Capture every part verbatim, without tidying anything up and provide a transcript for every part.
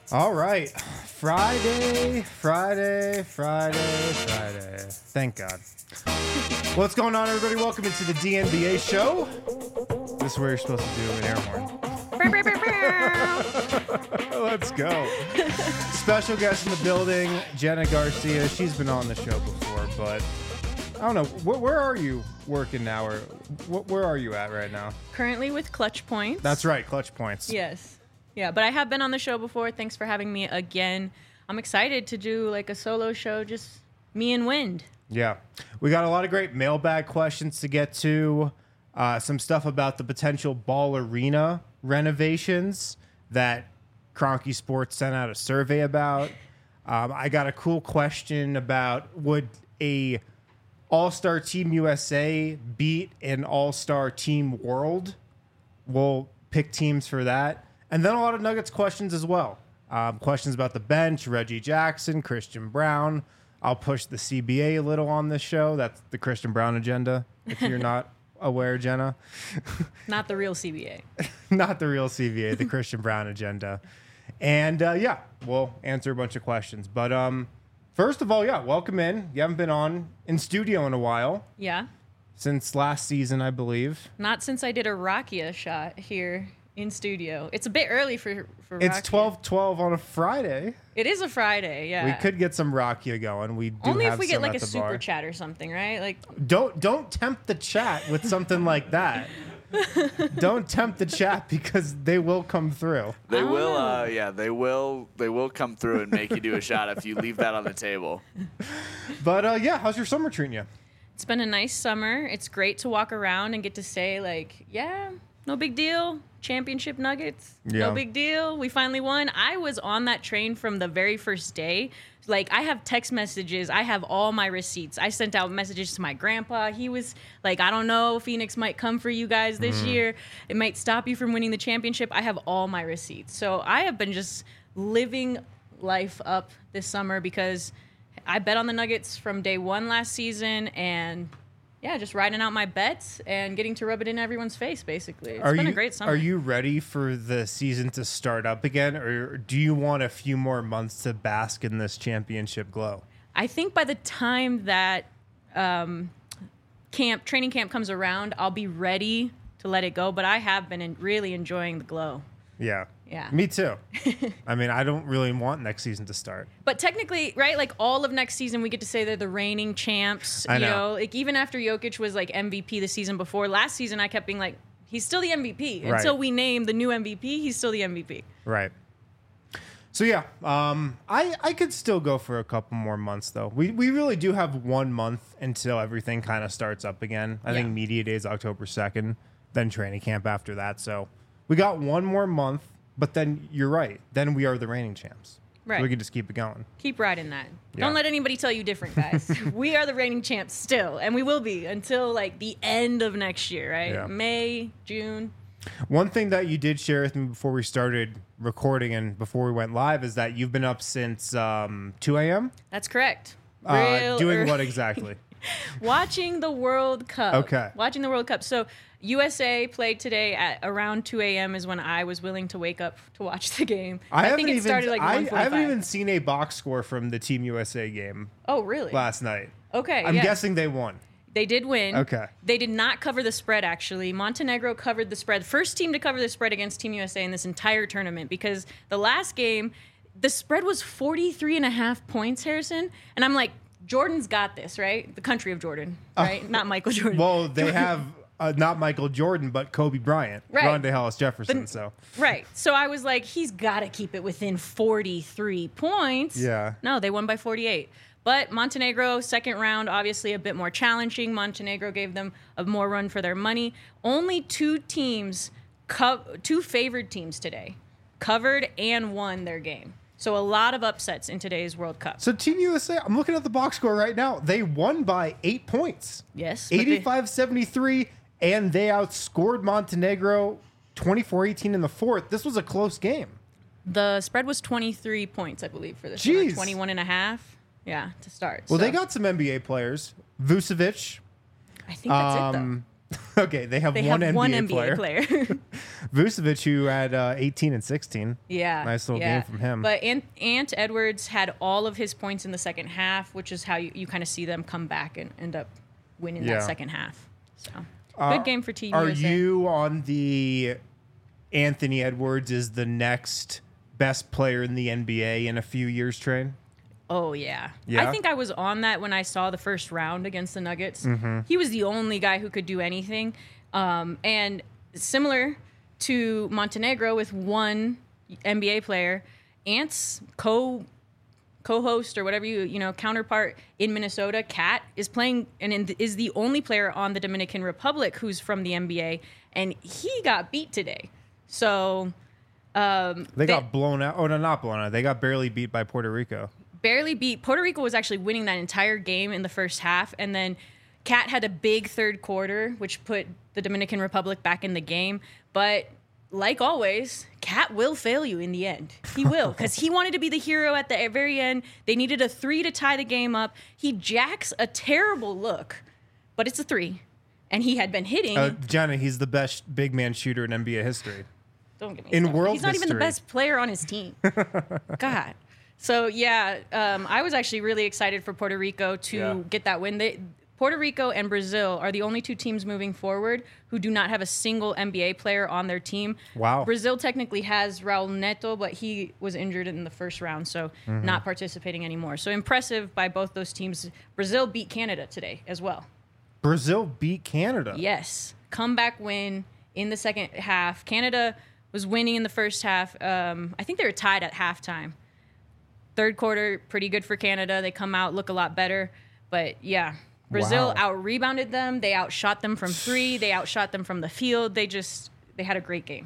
All right. Friday, Friday, Friday, Friday. Thank God. What's going on, everybody? Welcome into the D N B A show. This is where you're supposed to do an air horn. Let's go. Special guest in the building, Jenna Garcia. She's been on the show before, but I don't know. Where, where are you working now, or wh- where are you at right now? Currently with Clutch Points. That's right, Clutch Points. Yes. Yeah, but I have been on the show before. Thanks for having me again. I'm excited to do like a solo show, just me and Wind. Yeah. We got a lot of great mailbag questions to get to. Uh, some stuff about the potential Ball Arena renovations that Kroenke Sports sent out a survey about. Um, I got a cool question about would a All-Star Team U S A beat an All-Star Team World? We'll pick teams for that. And then a lot of Nuggets questions as well. Um, questions about the bench, Reggie Jackson, Christian Brown. I'll push the C B A a little on this show. That's the Christian Brown agenda, if you're not aware, Jenna. Not the real C B A. Not the real C B A, the Christian Brown agenda. And, uh, yeah, we'll answer a bunch of questions. But um, first of all, yeah, welcome in. You haven't been on in studio in a while. Yeah. Since last season, I believe. Not since I did a Rakia shot here in studio. It's a bit early for for It's Rakia. twelve twelve on a Friday. It is a Friday, yeah. We could get some Rakia going. We do Only have if we get some like at a the super bar. chat or something, right? Like Don't don't tempt the chat with something like that. Don't tempt the chat because they will come through. They I don't will, know. uh, yeah, they will. They will come through and make you do a shot if you leave that on the table. But uh, yeah, how's your summer treating you? it's been a nice summer. It's great to walk around and get to say like, yeah, no big deal. Championship Nuggets, Yeah. no big deal. We finally won. I was on that train from the very first day. Like, I have text messages. I have all my receipts. I sent out messages to my grandpa. He was like, I don't know, Phoenix might come for you guys this Mm-hmm. year. It might stop you from winning the championship. I have all my receipts. So I have been just living life up this summer because I bet on the Nuggets from day one last season, and yeah, just riding out my bets and getting to rub it in everyone's face, basically. It's are been you, a great summer. Are you ready for the season to start up again, or do you want a few more months to bask in this championship glow? I think by the time that um, camp training camp comes around, I'll be ready to let it go. But I have been in, really enjoying the glow. Yeah. Yeah. Me too. I mean, I don't really want next season to start. But technically, right, like all of next season, we get to say they're the reigning champs. I you know. Like even after Jokic was like M V P the season before, last season I kept being like, he's still the M V P. Right. Until we name the new M V P, he's still the M V P. Right. So yeah, um, I I could still go for a couple more months though. We we really do have one month until everything kind of starts up again. I Yeah. think media day is October second, then training camp after that. So we got one more month, but then you're right. Then we are the reigning champs. Right. So we can just keep it going. Keep riding that. Yeah. Don't let anybody tell you different, guys. We are the reigning champs still, and we will be until like the end of next year, right? Yeah. May, June. One thing that you did share with me before we started recording and before we went live is that you've been up since um, two a.m. That's correct. Uh, Real doing early. what exactly? Watching the World Cup. Okay. Watching the World Cup. So U S A played today at around two a.m. is when I was willing to wake up to watch the game. I, haven't think it even, started like I, one I forty-five. haven't even seen a box score from the Team U S A game Oh, really? last night. Okay. I'm yeah. guessing they won. They did win. Okay. They did not cover the spread, actually. Montenegro covered the spread. First team to cover the spread against Team U S A in this entire tournament, because the last game, the spread was forty-three and a half points, Harrison. And I'm like, Jordan's got this, right? The country of Jordan, right? Not Michael Jordan. Well, they have uh, not Michael Jordan, but Kobe Bryant, Right. Rondé Hollis Jefferson. But- so Right. So I was like, he's got to keep it within forty-three points. Yeah. No, they won by forty-eight. But Montenegro, second round, obviously a bit more challenging. Montenegro gave them a more run for their money. Only two teams, co- two favored teams today, covered and won their game. So a lot of upsets in today's World Cup. So Team U S A, I'm looking at the box score right now. They won by eight points. Yes. but they- eighty-five seventy-three, and they outscored Montenegro twenty-four eighteen in the fourth. This was a close game. The spread was twenty-three points, I believe, for this Jeez. one. twenty-one and a half. Yeah, to start. Well, So they got some N B A players. Vucevic. I think that's it, though. Um, okay, they have They one have N B A one N B A player. player. Vucevic, who had uh, eighteen and sixteen. Yeah. Nice little yeah. game from him. But Ant, Ant Edwards had all of his points in the second half, which is how you, you kind of see them come back and end up winning Yeah. that second half. So Uh, good game for Team Are U S A. you on the Anthony Edwards is the next best player in the N B A in a few years train? Oh, yeah. Yeah? I think I was on that when I saw the first round against the Nuggets. Mm-hmm. He was the only guy who could do anything. Um, and similar to Montenegro with one N B A player, Ant's co co-host or whatever you you know counterpart in Minnesota, Cat, is playing and in, is the only player on the Dominican Republic who's from the N B A, and he got beat today. So um, They got blown out. Oh, no, not blown out. They got barely beat by Puerto Rico. barely beat. Puerto Rico was actually winning that entire game in the first half, and then Cat had a big third quarter, which put the Dominican Republic back in the game. But like always, Cat will fail you in the end. He will, because he wanted to be the hero at the very end. They needed a three to tie the game up. He jacks a terrible look, but it's a three, and he had been hitting. Uh, Jenna, he's the best big man shooter in N B A history. Don't get me in started. world He's not even the history. best player on his team. God. So yeah, um, I was actually really excited for Puerto Rico to Yeah. get that win. They, Puerto Rico and Brazil are the only two teams moving forward who do not have a single N B A player on their team. Wow. Brazil technically has Raul Neto, but he was injured in the first round, so Mm-hmm. not participating anymore. So impressive by both those teams. Brazil beat Canada today as well. Brazil beat Canada. Yes. Comeback win in the second half. Canada was winning in the first half. Um, I think they were tied at halftime. Third quarter, pretty good for Canada. They come out, look a lot better. But yeah, Brazil Wow. out-rebounded them. They outshot them from three. They outshot them from the field. They just, they had a great game.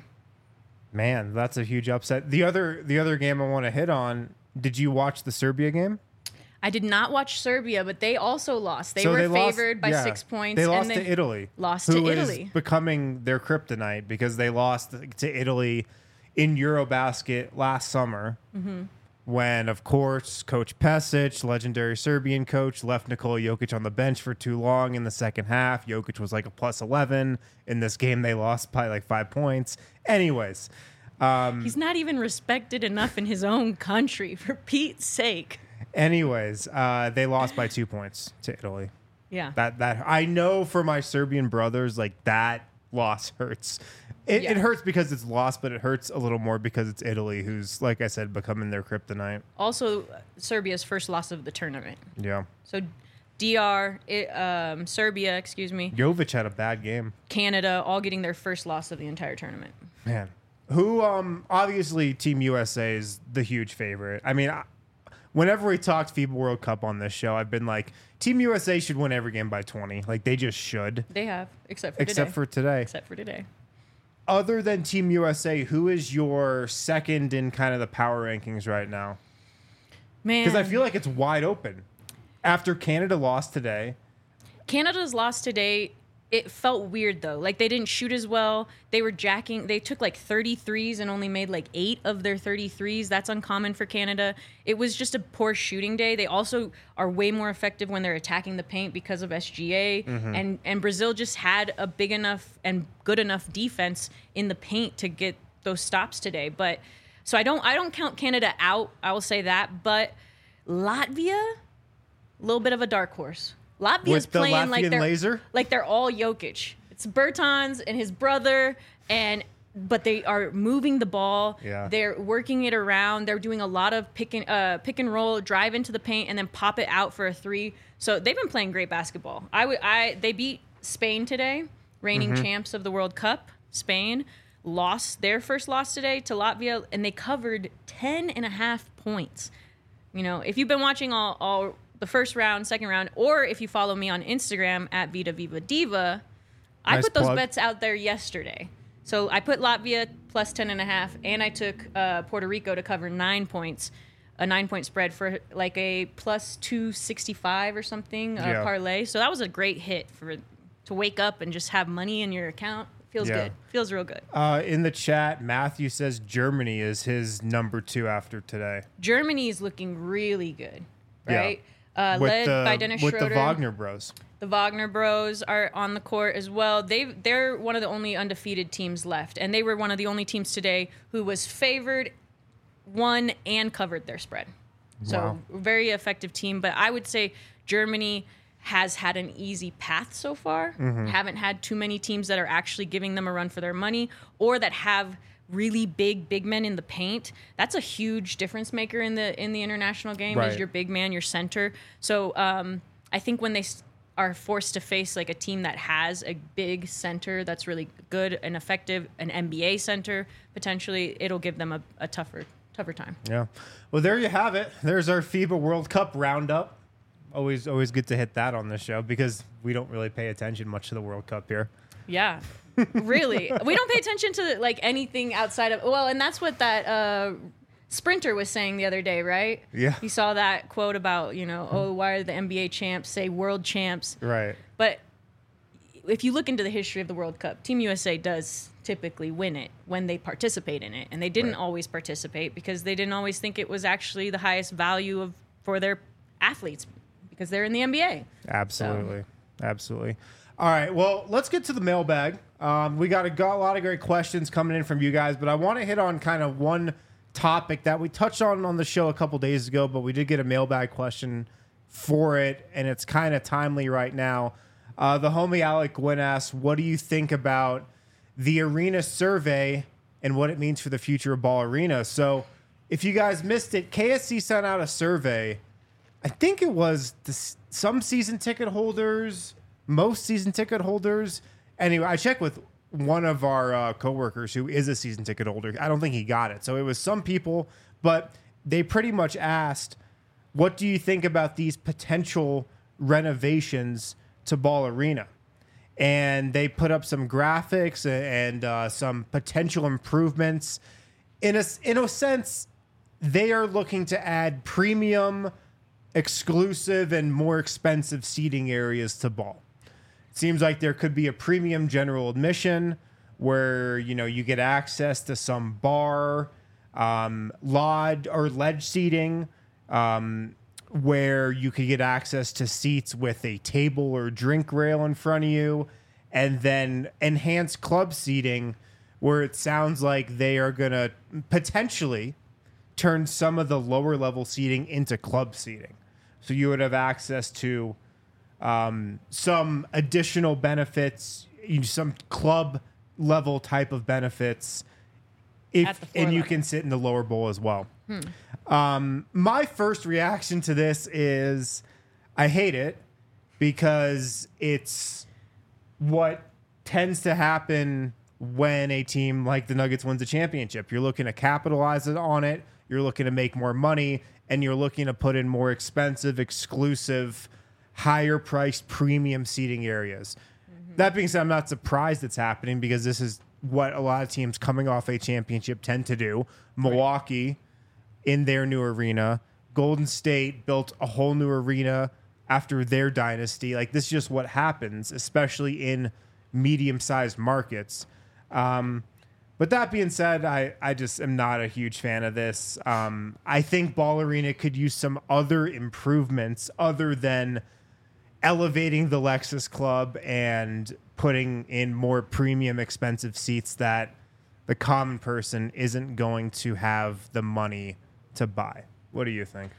Man, that's a huge upset. The other the other game I want to hit on, did you watch the Serbia game? I did not watch Serbia, but they also lost. They So were lost- favored by yeah. six points. They and lost to Italy. Lost who to is Italy. becoming their kryptonite because they lost to Italy in Eurobasket last summer. Mm-hmm. When, of course, Coach Pesic, legendary Serbian coach, left Nikola Jokic on the bench for too long in the second half. Jokic was like a plus eleven. In this game, they lost by like five points. Anyways, um, He's not even respected enough in his own country, for Pete's sake. anyways, uh, they lost by two points to Italy. Yeah. That that I know for my Serbian brothers, like that loss hurts. It, Yeah. it hurts because it's lost, but it hurts a little more because it's Italy, who's, like I said, becoming their kryptonite. Also, Serbia's first loss of the tournament. Yeah. So, D R, it, um, Serbia, excuse me, Jovic had a bad game. Canada, all getting their first loss of the entire tournament. Man. Who, um, obviously, Team U S A is the huge favorite. I mean, I, whenever we talked FIBA World Cup on this show, I've been like, Team U S A should win every game by twenty. Like, they just should. They have, except for Except today. for today. except for today. Other than Team U S A, who is your second in kind of the power rankings right now? Man, Because I feel like it's wide open. After Canada lost today, Canada's loss today, it felt weird though. Like they didn't shoot as well. They were jacking. They took like thirty-threes and only made like eight of their thirty-threes. That's uncommon for Canada. It was just a poor shooting day. They also are way more effective when they're attacking the paint because of S G A. And and Brazil just had a big enough and good enough defense in the paint to get those stops today. But so I don't I don't count Canada out. I will say that. But Latvia, a little bit of a dark horse. Latvia's with the playing like Latvian they're laser? like they're all Jokic. It's Bertans and his brother, and but they are moving the ball. Yeah. They're working it around. They're doing a lot of pick and uh, pick and roll, drive into the paint, and then pop it out for a three. So they've been playing great basketball. I would I they beat Spain today, reigning Mm-hmm. champs of the World Cup. Spain lost their first loss today to Latvia, and they covered ten and a half points. You know, if you've been watching all, all the first round, second round, or if you follow me on Instagram at Vita Viva Diva, I Nice put those plug. bets out there yesterday. So I put Latvia plus ten and a half, and I took uh, Puerto Rico to cover nine points, a nine point spread for like a plus two sixty-five or something uh, Yeah. parlay. So that was a great hit for to wake up and just have money in your account. Feels Yeah. good. Feels real good. Uh, in the chat, Matthew says Germany is his number two after today. Germany is looking really good, Yeah. right? uh, with led the, by Dennis with Schroeder. the Wagner Bros. The Wagner Bros are on the court as well. They they're one of the only undefeated teams left, and they were one of the only teams today who was favored, won, and covered their spread. So Wow. very effective team. But I would say Germany has had an easy path so far. Mm-hmm. Haven't had too many teams that are actually giving them a run for their money, or that have really big big men in the paint. That's a huge difference maker in the in the international game. Right. Is your big man, your center. So um, I think when they s- are forced to face like a team that has a big center that's really good and effective, an N B A center potentially, it'll give them a, a tougher tougher time. Yeah. Well, there you have it. There's our FIBA World Cup roundup. Always, always good to hit that on this show because we don't really pay attention much to the World Cup here. Yeah, really. We don't pay attention to like anything outside of well, and that's what that uh, sprinter was saying the other day, right? Yeah. You saw that quote about you know, oh, why are the N B A champs say world champs? Right. But if you look into the history of the World Cup, Team U S A does typically win it when they participate in it, and they didn't Right. always participate because they didn't always think it was actually the highest value of for their athletes because they're in the N B A. Absolutely. Absolutely. All right. Well, let's get to the mailbag. Um, we got a, got a lot of great questions coming in from you guys, but I want to hit on kind of one topic that we touched on on the show a couple days ago, but we did get a mailbag question for it, and it's kind of timely right now. Uh, the homie Alec Gwynn asks, what do you think about the arena survey and what it means for the future of Ball Arena? So if you guys missed it, K S C sent out a survey. I think it was the, some season ticket holders, most season ticket holders. Anyway, I checked with one of our uh, coworkers who is a season ticket holder. I don't think he got it. So it was some people, but they pretty much asked, what do you think about these potential renovations to Ball Arena? And they put up some graphics and uh, some potential improvements. In a, in a sense, they are looking to add premium, exclusive, and more expensive seating areas to Ball. It seems like there could be a premium general admission where, you know, you get access to some bar, um, lod or ledge seating, um, where you could get access to seats with a table or drink rail in front of you, and then enhanced club seating where it sounds like they are going to potentially turn some of the lower level seating into club seating. So you would have access to um, some additional benefits, you know, some club level type of benefits, if, At the floor and you level. can sit in the lower bowl as well. Um, my first reaction to this is I hate it because it's what tends to happen when a team like the Nuggets wins a championship. You're looking to capitalize on it. You're looking to make more money, and you're looking to put in more expensive, exclusive, higher priced premium seating areas. Mm-hmm. That being said, I'm not surprised it's happening because this is what a lot of teams coming off a championship tend to do. Milwaukee in their new arena. Golden State built a whole new arena after their dynasty. Like, this is just what happens, especially in medium-sized markets. Um, but that being said, I, I just am not a huge fan of this. Um, I think Ball Arena could use some other improvements other than elevating the Lexus Club and putting in more premium, expensive seats that the common person isn't going to have the money to buy. What do you think?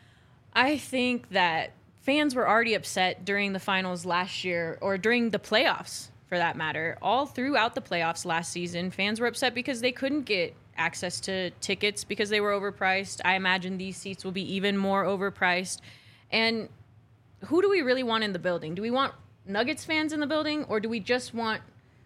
I think that fans were already upset during the finals last year, or during the playoffs for that matter. All throughout the playoffs last season, fans were upset because they couldn't get access to tickets because they were overpriced. I imagine these seats will be even more overpriced. And who do we really want in the building? Do we want Nuggets fans in the building, or do we just want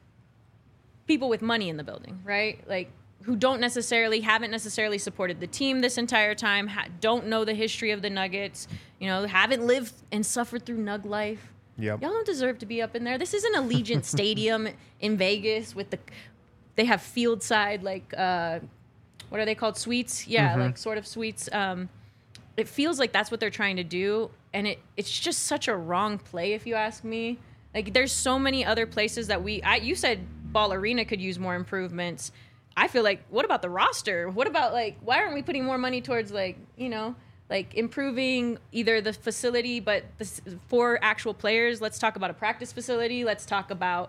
people with money in the building, right? Like, who don't necessarily, haven't necessarily supported the team this entire time, ha- don't know the history of the Nuggets, you know, haven't lived and suffered through Nug life. Yep. Y'all don't deserve to be up in there. This isn't Allegiant Stadium in Vegas with the, they have field side, like, uh, what are they called? Suites? Yeah, Mm-hmm. like sort of suites. Um, it feels like that's what they're trying to do. And it, it's just such a wrong play, if you ask me. Like, there's so many other places that we, I, you said Ball Arena could use more improvements. I feel like, what about the roster? What about, like, why aren't we putting more money towards, like, you know, like improving either the facility, but the, for actual players, let's talk about a practice facility. Let's talk about,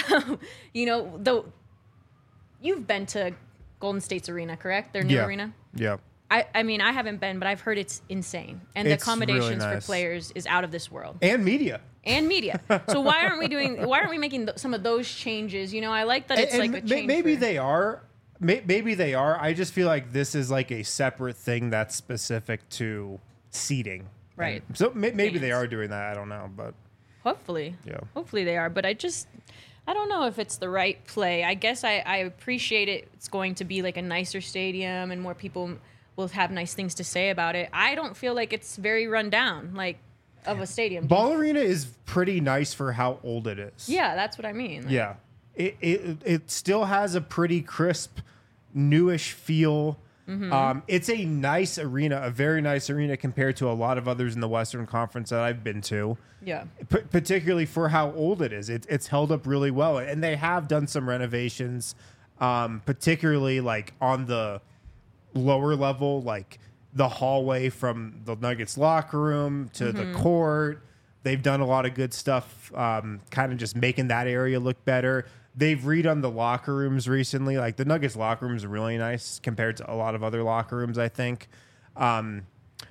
you know, the, you've been to Golden State's arena, correct? Their new yeah. arena? Yeah. I, I mean, I haven't been, but I've heard it's insane. And It's the accommodations really nice. for players is out of this world. And media. And media. So why aren't we doing, why aren't we making th- some of those changes? You know, I like that it's And- like and a ma- change. maybe for- they are. May- Maybe they are. I just feel like this is like a separate thing that's specific to seating. Right. And so may- maybe they Fans. are doing that. I don't know, but Hopefully. Yeah. Hopefully they are. But I just, I don't know if it's the right play. I guess I, I appreciate it. It's going to be like a nicer stadium and more people will have nice things to say about it. I don't feel like it's very run down, like, of a stadium. Ball Arena is pretty nice for how old it is. Yeah, that's what I mean. Like, Yeah. It, it it still has a pretty crisp, newish feel. Mm-hmm. Um, it's a nice arena, a very nice arena compared to a lot of others in the Western Conference that I've been to. Yeah. P- particularly for how old it is. It, it's held up really well, and they have done some renovations, um, particularly like on the lower level, like the hallway from the Nuggets locker room to the court. They've done a lot of good stuff, um, kind of just making that area look better. They've redone the locker rooms recently. Like the Nuggets locker rooms are really nice compared to a lot of other locker rooms, I think. Um,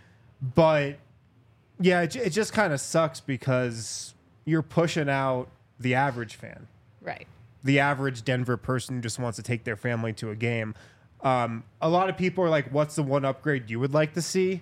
but yeah, it, it just kind of sucks because you're pushing out the average fan, Right. the average Denver person who just wants to take their family to a game. Um, a lot of people are like, what's the one upgrade you would like to see?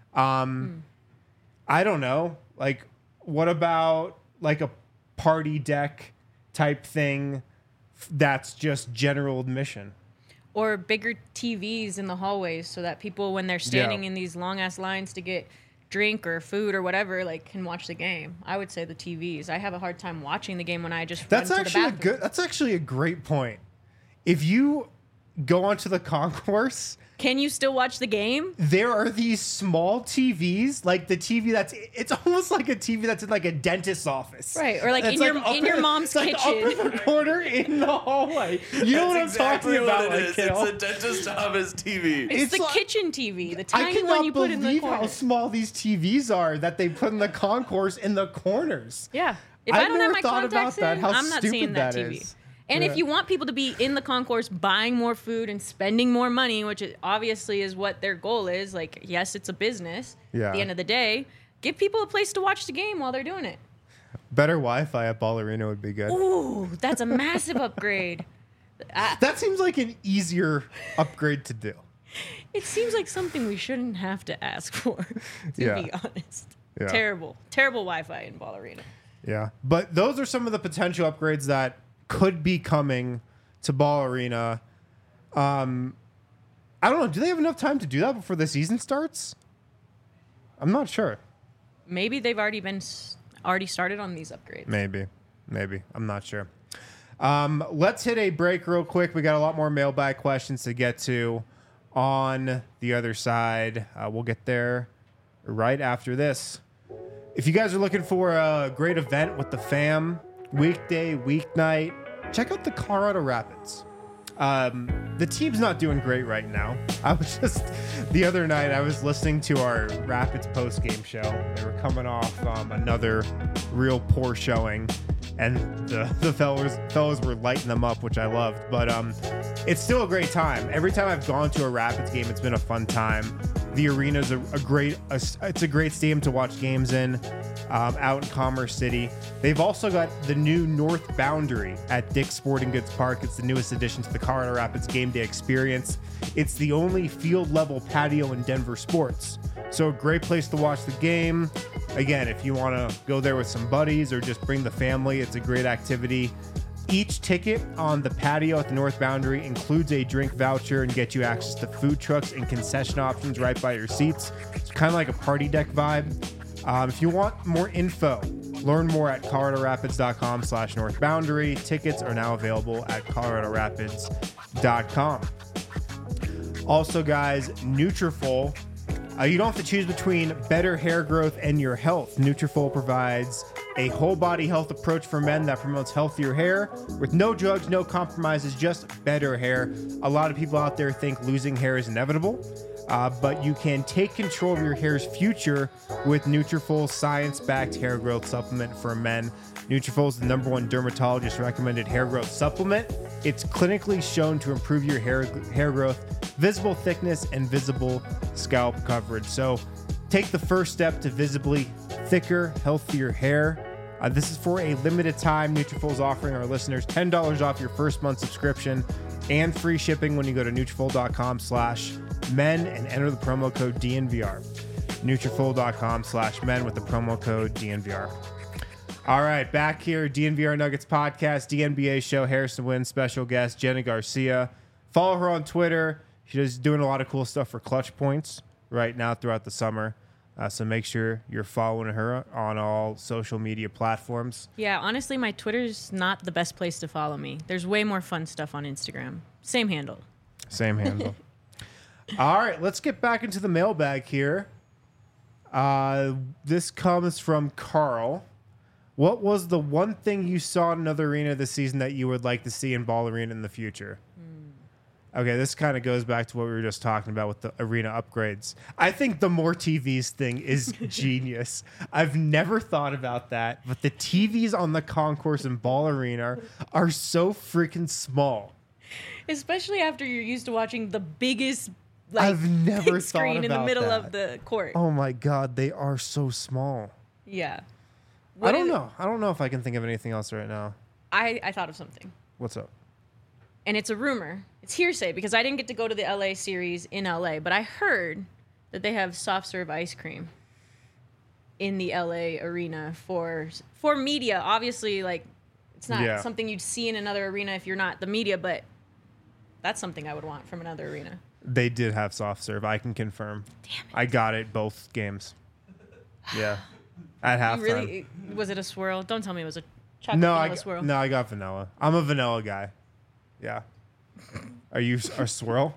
Um, I don't know. Like, what about like a party deck type thing that's just general admission? Or bigger T Vs in the hallways so that people, when they're standing Yeah. in these long ass lines to get drink or food or whatever, like can watch the game. I would say the T Vs. I have a hard time watching the game when I just That's run actually to a the bathroom. good. That's actually a great point. If you go onto the concourse, Can you still watch the game? there are these small T Vs, like the T V that's it's almost like a T V that's in like a dentist's office, Right, or like It's in your- up in your mom's it's like kitchen. up in the corner in the hallway. You know what I'm exactly talking what about, it like, is. Kale? It's a dentist office T V. It's, It's the like- kitchen T V, the I tiny cannot one you put in the believe corner. how small these T Vs are that they put in the concourse in the corners. Yeah. If I've I don't have never my thought about contacts that, in, how I'm not stupid seeing that, that T V. is. And Yeah. if you want people to be in the concourse buying more food and spending more money, which is obviously is what their goal is, like, yes, it's a business. Yeah. At the end of the day, give people a place to watch the game while they're doing it. Better Wi-Fi at Ball Arena would be good. Ooh, that's a massive upgrade. I, That seems like an easier upgrade to do. it seems like something we shouldn't have to ask for, to Yeah. be honest. Yeah. Terrible, terrible Wi-Fi in Ball Arena. Yeah. But those are some of the potential upgrades that could be coming to Ball Arena. Um, I don't know. Do they have enough time to do that before the season starts? I'm not sure. Maybe they've already been s- already started on these upgrades. Maybe. Maybe. I'm not sure. Um, let's hit a break real quick. We got a lot more mailbag questions to get to on the other side. Uh, we'll get there right after this. If you guys are looking for a great event with the fam, weekday, weeknight, check out the Colorado Rapids. Um, the team's not doing great right now. I was just, the other night, I was listening to our Rapids post-game show. They were coming off um, another real poor showing, and the, the fellas, fellas were lighting them up, which I loved. But um, it's still a great time. Every time I've gone to a Rapids game, it's been a fun time. The arena's a, a great, a, it's a great stadium to watch games in, um, out in Commerce City. They've also got the new North Boundary at Dick's Sporting Goods Park. It's the newest addition to the Colorado Rapids game day experience. It's the only field level patio in Denver sports. So a great place to watch the game. Again, if you want to go there with some buddies or just bring the family, it's a great activity. Each ticket on the patio at the North Boundary includes a drink voucher and gets you access to food trucks and concession options right by your seats. It's kind of like a party deck vibe. Um, if you want more info, learn more at coloradorapids.com slash North Boundary. Tickets are now available at colorado rapids dot com. Also, guys, Nutrafol. Uh, you don't have to choose between better hair growth and your health. Nutrafol provides a whole body health approach for men that promotes healthier hair with no drugs, no compromises, just better hair. A lot of people out there think losing hair is inevitable. Uh, but you can take control of your hair's future with Nutrafol science-backed hair growth supplement for men. Nutrafol is the number one dermatologist recommended hair growth supplement. It's clinically shown to improve your hair hair growth, visible thickness, and visible scalp coverage. So take the first step to visibly thicker, healthier hair. Uh, this is for a limited time. Nutrafol is offering our listeners ten dollars off your first month subscription and free shipping when you go to Nutrafol.com slash men and enter the promo code D N V R. Nutrafol.com slash men with the promo code D N V R. All right, back here, D N V R Nuggets podcast, D N B A show, Harrison Wind, special guest, Jenna Garcia. Follow her on Twitter. She's doing a lot of cool stuff for Clutch Points right now throughout the summer. Uh, so make sure you're following her on all social media platforms. Yeah, honestly, my Twitter's not the best place to follow me. There's way more fun stuff on Instagram. Same handle. Same handle. All right, let's get back into the mailbag here. Uh, this comes from Carl. What was the one thing you saw in another arena this season that you would like to see in Ball Arena in the future? Okay, this kind of goes back to what we were just talking about with the arena upgrades. I think the more T Vs thing is genius. I've never thought about that, but the T Vs on the concourse and Ball Arena are so freaking small. Especially after you're used to watching the biggest like I've never big screen thought in the about middle that. of the court. Oh my God, they are so small. Yeah. I What don't is- know. I don't know if I can think of anything else right now. I, I thought of something. What's up? And it's a rumor. It's hearsay because I didn't get to go to the L A series in L A, but I heard that they have soft serve ice cream in the L A arena for for media. Obviously, like it's not Yeah. something you'd see in another arena if you're not the media, but that's something I would want from another arena. They did have soft serve. I can confirm. Damn it. I got it both games. Yeah. At halftime. You really was it a swirl? Don't tell me it was a chocolate No, vanilla I swirl. no, I got vanilla. I'm a vanilla guy. Yeah. Are you a swirl?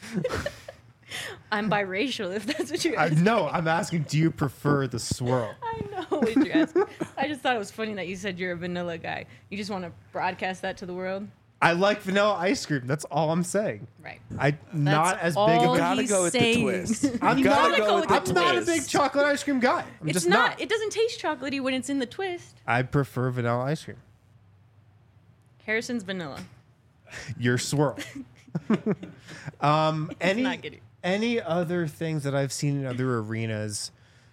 I'm biracial if that's what you're I, asking. no, I'm asking. Do you prefer the swirl? I know what you're asking. I just thought it was funny that you said you're a vanilla guy. You just want to broadcast that to the world? I like vanilla ice cream. That's all I'm saying. Right. I not as big all of a. Gotta he's go with saying. the twist. I'm You not. gotta go with the I'm not a twist. big chocolate ice cream guy. I'm It's just not, not. It doesn't taste chocolatey when it's in the twist. I prefer vanilla ice cream. Harrison's vanilla. Your swirl. um, any not good. any other things that I've seen in other arenas?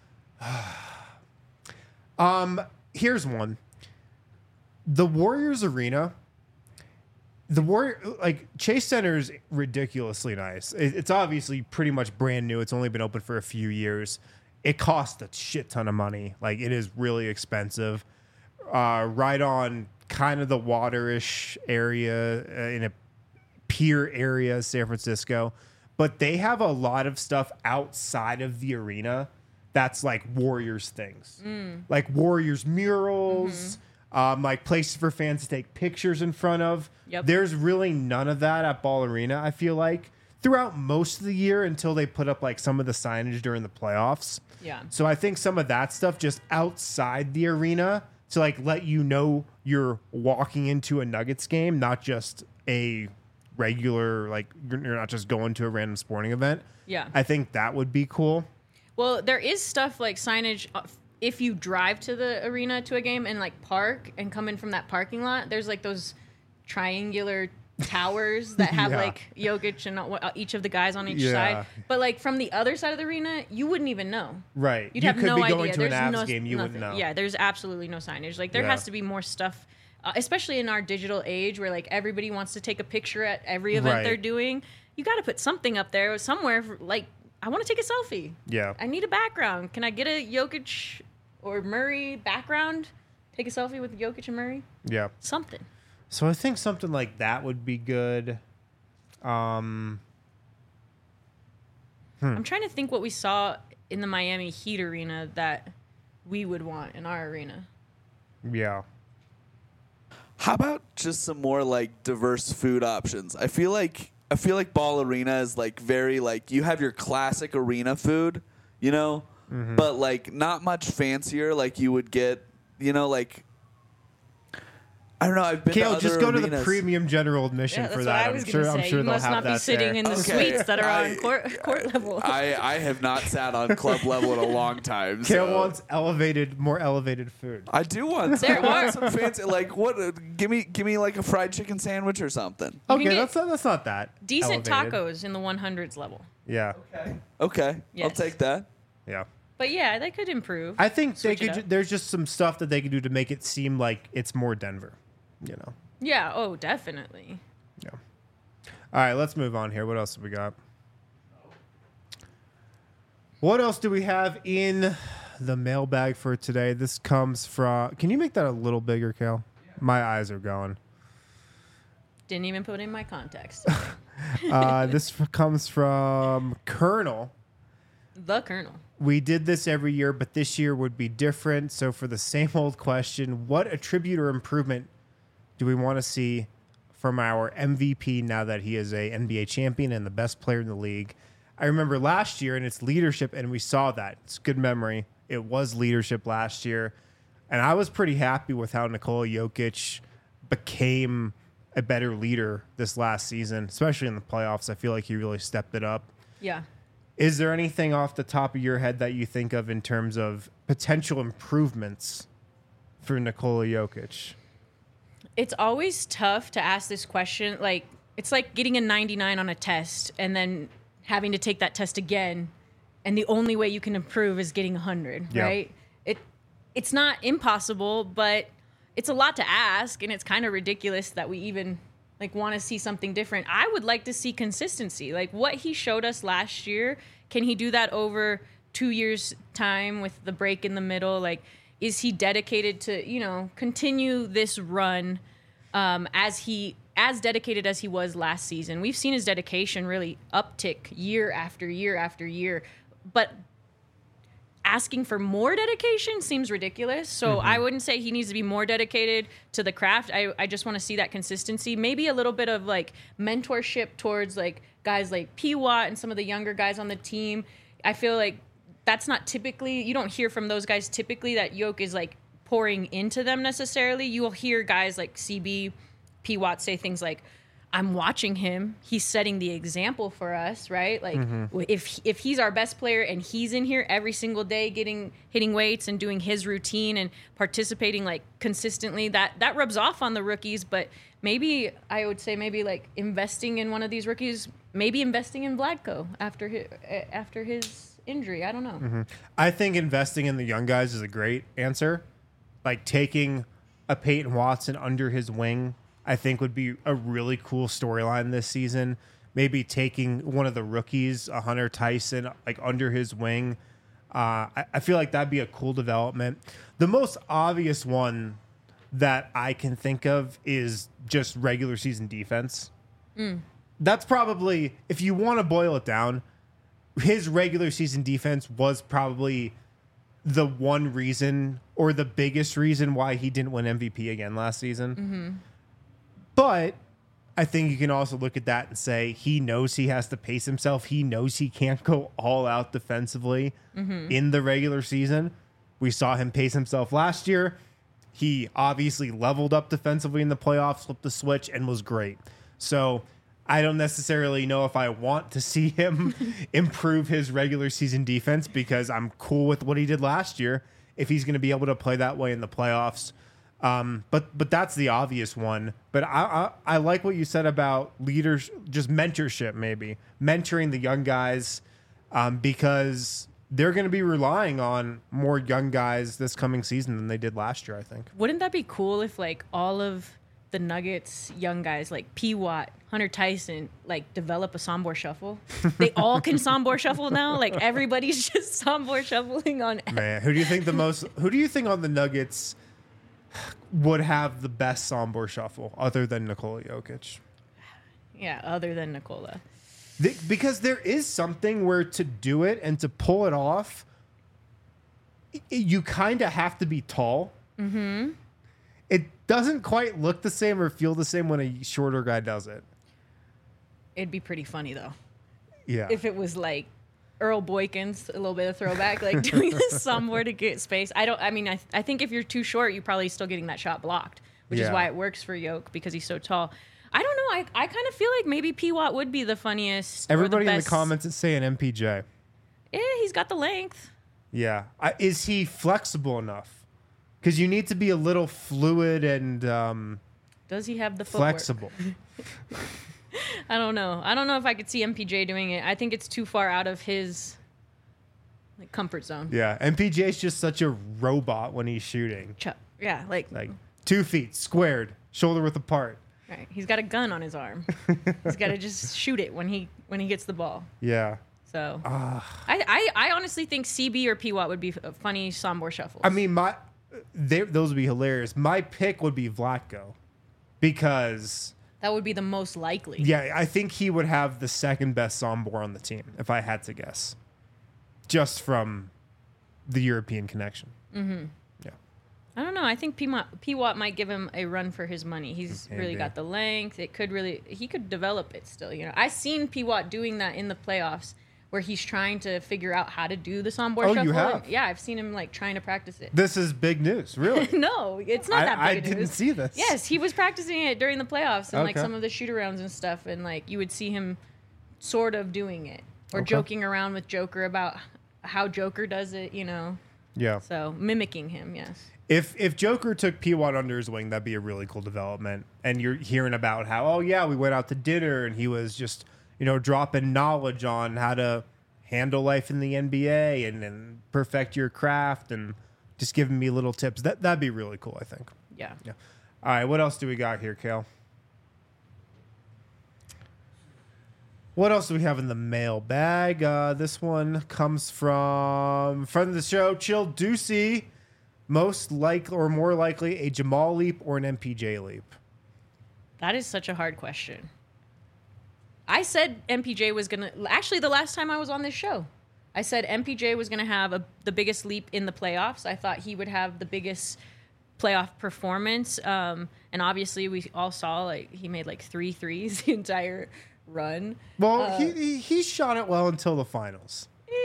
um, here's one. The Warriors arena. The Warrior, like Chase Center is ridiculously nice. It, it's obviously pretty much brand new. It's only been open for a few years. It costs a shit ton of money. Like it is really expensive. Uh, right on kind of the waterish area uh, in a pier area, San Francisco. But they have a lot of stuff outside of the arena that's like Warriors things, like Warriors murals. Um, like places for fans to take pictures in front of. Yep. There's really none of that at Ball Arena, I feel like, throughout most of the year until they put up like some of the signage during the playoffs. Yeah. So I think some of that stuff just outside the arena to like let you know you're walking into a Nuggets game, not just a regular, like you're not just going to a random sporting event. Yeah. I think that would be cool. Well, there is stuff like signage. uh, If you drive to the arena to a game and like park and come in from that parking lot, there's like those triangular towers that have Yeah. like Jokic and uh, each of the guys on each Yeah. side. But like from the other side of the arena, you wouldn't even know. Right. You'd you have could no be idea. going to There's an Avs no, game, you nothing. wouldn't know. Yeah, there's absolutely no signage. Like there Yeah. has to be more stuff, uh, especially in our digital age where like everybody wants to take a picture at every event Right. they're doing. You got to put something up there somewhere. For, like I want to take a selfie. Yeah. I need a background. Can I get a Jokic or Murray background? Take a selfie with Jokic and Murray? Yeah. Something. So I think something like that would be good. Um, I'm trying to think what we saw in the Miami Heat arena that we would want in our arena. yeah. How about just some more like diverse food options? I feel like I feel like Ball Arena is like very like you have your classic arena food, you know, but like not much fancier like you would get, you know, like I don't know. I've been Kale, to just other go to the arenas. premium general admission Yeah, that's for what that. I I'm was sure. gonna I'm say. sure You they'll must have not be that sitting there. in the Okay. suites that are I- on court, court level. I, I have not sat on club level in a long time. Kale so. wants elevated, more elevated food. I do want There I want are- some fancy like what? Uh, give me give me like a fried chicken sandwich or something. You Okay, can get that's not, that's not that Decent elevated. tacos in the one hundreds level. Yeah, Okay, I'll Yes. take that. yeah. But yeah, they could improve. I think they Switch it could. up. ju- There's just some stuff that they could do to make it seem like it's more Denver. You know. yeah, oh, definitely. Yeah. All right, let's move on here. What else have we got? What else do we have in the mailbag for today? This comes from. Can you make that a little bigger, Kale? My eyes are going. Didn't even put in my context. Uh, this f- comes from Colonel. The Colonel. We did this every year, but this year would be different. So, for the same old question, what attribute or improvement do we want to see from our M V P now that he is a N B A champion and the best player in the league? I remember last year, and it's leadership, and we saw that. It's good memory. It was leadership last year, and I was pretty happy with how Nikola Jokic became a better leader this last season, especially in the playoffs. I feel like he really stepped it up. Yeah. Is there anything off the top of your head that you think of in terms of potential improvements for Nikola Jokic? It's always tough to ask this question. Like, it's like getting a ninety-nine on a test and then having to take that test again. And the only way you can improve is getting one hundred, Yeah. right? It, it's not impossible, but it's a lot to ask. And it's kind of ridiculous that we even like want to see something different. I would like to see consistency. Like what he showed us last year, can he do that over two years' time with the break in the middle? Like, is he dedicated to, you know, continue this run um, as he as dedicated as he was last season? We've seen his dedication really uptick year after year after year, but asking for more dedication seems ridiculous. So I wouldn't say he needs to be more dedicated to the craft. I, I just want to see that consistency. Maybe a little bit of like mentorship towards like guys like P. Watt and some of the younger guys on the team. I feel like that's not typically, you don't hear from those guys typically that Yoke is like pouring into them necessarily. You will hear guys like C B, P. Watt say things like, I'm watching him. He's setting the example for us, right? Like if if he's our best player and he's in here every single day getting hitting weights and doing his routine and participating like consistently, that that rubs off on the rookies. But maybe I would say maybe like investing in one of these rookies, maybe investing in Vladko after his, after his injury. I don't know. I think investing in the young guys is a great answer. Like taking a Peyton Watson under his wing, I think would be a really cool storyline this season. Maybe taking one of the rookies, a Hunter Tyson, like under his wing. Uh, I, I feel like that'd be a cool development. The most obvious one that I can think of is just regular season defense. That's probably, if you want to boil it down, his regular season defense was probably the one reason or the biggest reason why he didn't win M V P again last season. But I think you can also look at that and say he knows he has to pace himself. He knows he can't go all out defensively in the regular season. We saw him pace himself last year. He obviously leveled up defensively in the playoffs, flipped the switch, and was great. So I don't necessarily know if I want to see him improve his regular season defense because I'm cool with what he did last year if he's going to be able to play that way in the playoffs. Um, but but that's the obvious one. But I, I I like what you said about leaders, just mentorship, maybe mentoring the young guys, um, because they're going to be relying on more young guys this coming season than they did last year, I think. Wouldn't that be cool if like all of the Nuggets young guys like P. Watt, Hunter Tyson, like develop a Sombor shuffle? They all can Sombor shuffle now. Like everybody's just Sombor shuffling on. Man, who do you think the most? Who do you think on the Nuggets would have the best Sombor shuffle other than Nikola Jokic? Yeah, other than Nikola. The, because there is something where to do it and to pull it off, i- you kind of have to be tall. Mm-hmm. It doesn't quite look the same or feel the same when a shorter guy does it. It'd be pretty funny though Yeah. if it was like Earl Boykins, a little bit of throwback, like doing this somewhere to get space. I don't. I mean, I I think if you're too short, you're probably still getting that shot blocked. which is Yeah. why it works for Yoke because he's so tall. I don't know. I, I kind of feel like maybe P-Watt would be the funniest. Everybody or the in best. the comments is saying M P J. Yeah, he's got the length. Yeah. I, is he flexible enough? Because you need to be a little fluid and um, Does he have the footwork? flexible. I don't know. I don't know if I could see M P J doing it. I think it's too far out of his like comfort zone. Yeah. M P J is just such a robot when he's shooting. Ch- Yeah, like, Like two feet squared, shoulder width apart. right. He's got a gun on his arm. He's got to just shoot it when he when he gets the ball. Yeah. So I, I I honestly think C B or P-Watt would be a funny Sombor shuffle. I mean, my they, those would be hilarious. My pick would be Vlatko because, that would be the most likely. yeah, I think he would have the second best Sombor on the team, if I had to guess, just from the European connection. Mm-hmm. Yeah. I don't know. I think P-Watt, P-Watt might give him a run for his money. He's Maybe. really got the length. It could really, he could develop it still. You know, I've seen P-Watt doing that in the playoffs, where he's trying to figure out how to do the Sombor Oh, shuffle. you have? And yeah, I've seen him like trying to practice it. This is big news, really. No, it's not I- that I big of didn't news. see this. Yes, he was practicing it during the playoffs and like Okay. some of the shoot arounds and stuff, and like you would see him sort of doing it or Okay. joking around with Joker about how Joker does it, you know. Yeah. So mimicking him, yes. If if Joker took P-Watt under his wing, that'd be a really cool development. And you're hearing about how, oh yeah, we went out to dinner and he was just, you know, dropping knowledge on how to handle life in the N B A and, and perfect your craft and just giving me little tips. That that'd be really cool, I think. Yeah. Yeah. All right, what else do we got here, Kale? What else do we have in the mailbag? Uh, this one comes from friend of the show, Chill Deucey. Most like or more likely a Jamal leap or an M P J leap? That is such a hard question. I said M P J was going to... Actually, the last time I was on this show, I said M P J was going to have a, the biggest leap in the playoffs. I thought he would have the biggest playoff performance. Um, and obviously, we all saw like he made like three threes the entire run. Well, Uh, he, he he shot it well until the finals.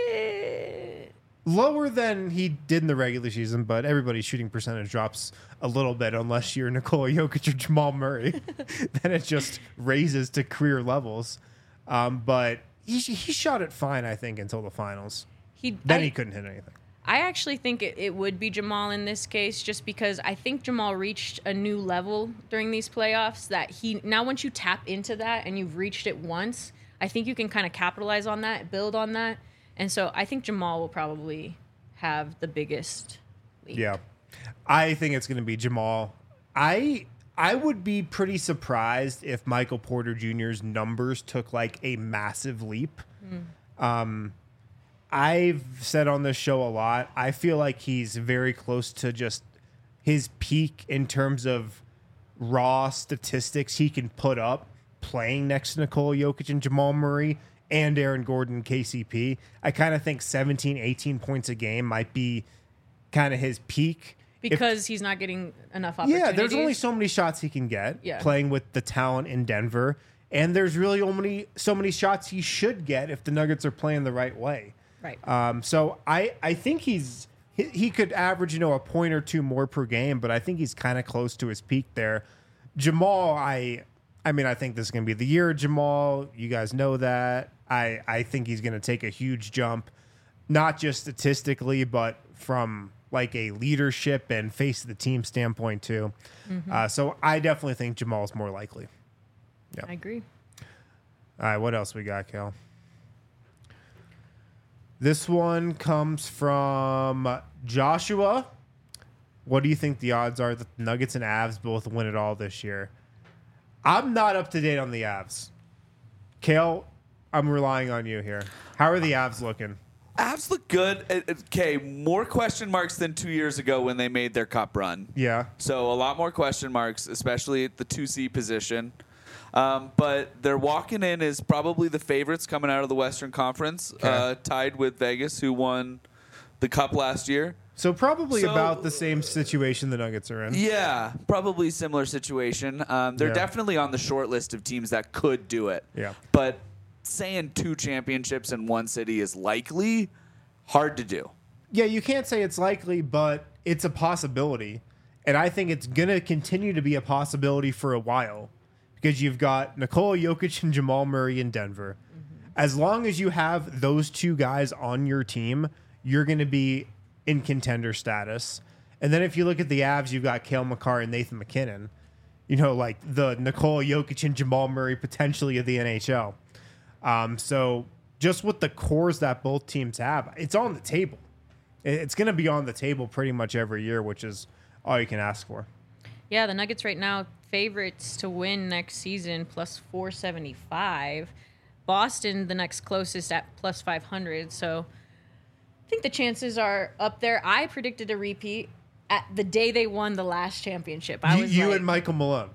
Eh, Lower than he did in the regular season, but everybody's shooting percentage drops a little bit unless you're Nikola Jokic or Jamal Murray. Then it just raises to career levels. Um, but he he shot it fine, I think, until the finals. he, Then I, he couldn't hit anything. I actually think it, it would be Jamal in this case, just because I think Jamal reached a new level during these playoffs that he now once you tap into that and you've reached it once, I think you can kind of capitalize on that, build on that. And so I think Jamal will probably have the biggest leap. Yeah. I think it's going to be Jamal. I I would be pretty surprised if Michael Porter Junior's numbers took like a massive leap. Mm. Um, I've said on this show a lot, I feel like he's very close to just his peak in terms of raw statistics he can put up playing next to Nikola Jokic and Jamal Murray and Aaron Gordon, K C P. I kind of think seventeen, eighteen points a game might be kind of his peak. If- Because he's not getting enough opportunities. yeah, there's only so many shots he can get Yeah. playing with the talent in Denver. And there's really only so many shots he should get if the Nuggets are playing the right way. Right. Um, so I, I think he's he, he could average, you know, a point or two more per game, but I think he's kind of close to his peak there. Jamal, I I mean, I think this is going to be the year of Jamal. You guys know that. I, I think he's going to take a huge jump, not just statistically, but from like a leadership and face of the team standpoint too. Mm-hmm. Uh, so I definitely think Jamal's more likely. I agree. All right, what else we got, Kel? This one comes from Joshua. What do you think the odds are that the Nuggets and Avs both win it all this year? I'm not up to date on the Avs. Kale, I'm relying on you here. How are the Avs looking? Avs look good. Uh, uh, Okay, more question marks than two years ago when they made their cup run. Yeah. So a lot more question marks, especially at the two C position. Um, but they're walking in as probably the favorites coming out of the Western Conference, Okay. uh, tied with Vegas, who won the cup last year. So probably So- about the same situation the Nuggets are in. Yeah, probably similar situation. Um, they're Yeah. definitely on the short list of teams that could do it. Yeah. But saying two championships in one city is likely hard to do. Yeah, you can't say it's likely, but it's a possibility. And I think it's going to continue to be a possibility for a while because you've got Nikola Jokic and Jamal Murray in Denver. Mm-hmm. As long as you have those two guys on your team, you're going to be in contender status. And then if you look at the Avs, you've got Cale Makar and Nathan McKinnon. You know, like the Nikola Jokic and Jamal Murray potentially of the N H L. Um, so just with the cores that both teams have, it's on the table. It's going to be on the table pretty much every year, which is all you can ask for. Yeah, the Nuggets right now, favorites to win next season, plus four seventy-five. Boston, the next closest at plus five hundred. So I think the chances are up there. I predicted a repeat at the day they won the last championship. I you was you like, and Michael Malone.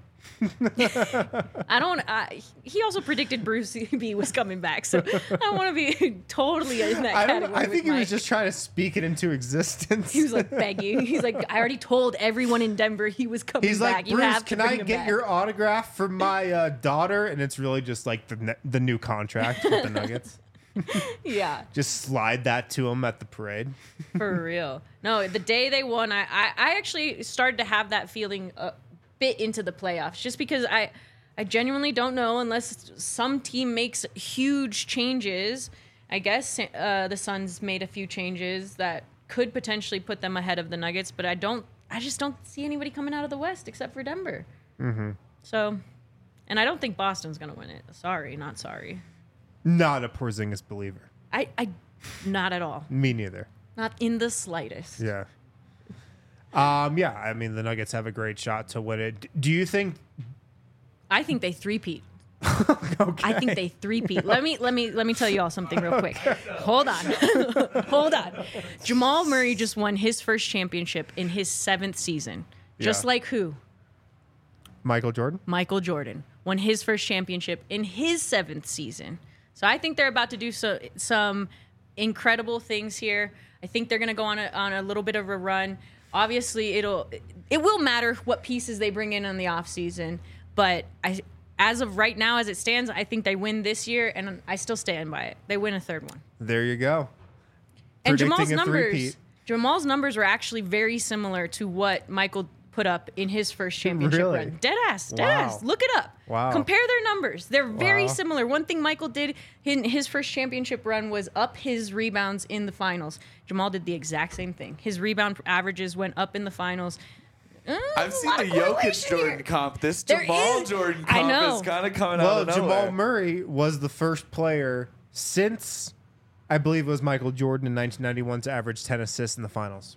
I don't. Uh, he also predicted Bruce B was coming back, so I don't want to be totally in that I, category. don't, I think with he Mike. was just trying to speak it into existence. He was like begging. He's like, I already told everyone in Denver he was coming He's back. like, You Bruce, have to can bring I him get back." your autograph for my uh, daughter? And it's really just like the ne- the new contract with the Nuggets. Yeah, Just slide that to him at the parade. for real. No, the day they won, I, I, I actually started to have that feeling a bit into the playoffs, just because I, I genuinely don't know unless some team makes huge changes. I guess uh, the Suns made a few changes that could potentially put them ahead of the Nuggets, but I don't. I just don't see anybody coming out of the West except for Denver. Mm-hmm. So, and I don't think Boston's gonna win it. Sorry, not sorry. Not a Porzingis believer. I, I, not at all. Me neither. Not in the slightest. Yeah. Um. Yeah. I mean, the Nuggets have a great shot to win it. Do you think? I think they three-peat. Okay. I think they three-peat. Let me let me let me tell you all something real quick. Hold on. Hold on. Jamal Murray just won his first championship in his seventh season. Just Yeah. like who? Michael Jordan. Michael Jordan won his first championship in his seventh season. So I think they're about to do so, some incredible things here. I think they're going to go on a, on a little bit of a run. Obviously, it'll it will matter what pieces they bring in on the offseason. But I, as of right now, as it stands, I think they win this year, and I still stand by it. They win a third one. There you go. And Predicting Jamal's a numbers, three-peat. Jamal's numbers were actually very similar to what Michael put up in his first championship Really? run. Dead ass, dead Wow. ass. Look it up. Wow. Compare their numbers. They're very Wow. similar. One thing Michael did in his first championship run was up his rebounds in the finals. Jamal did the exact same thing. His rebound averages went up in the finals. Uh, I've a seen lot the of Jokic correlation Jordan here. comp. This There Jamal is- Jordan I comp know. is kind of coming Well, out of nowhere. Jamal Murray was the first player since, I believe it was Michael Jordan in nineteen ninety-one to average ten assists in the finals.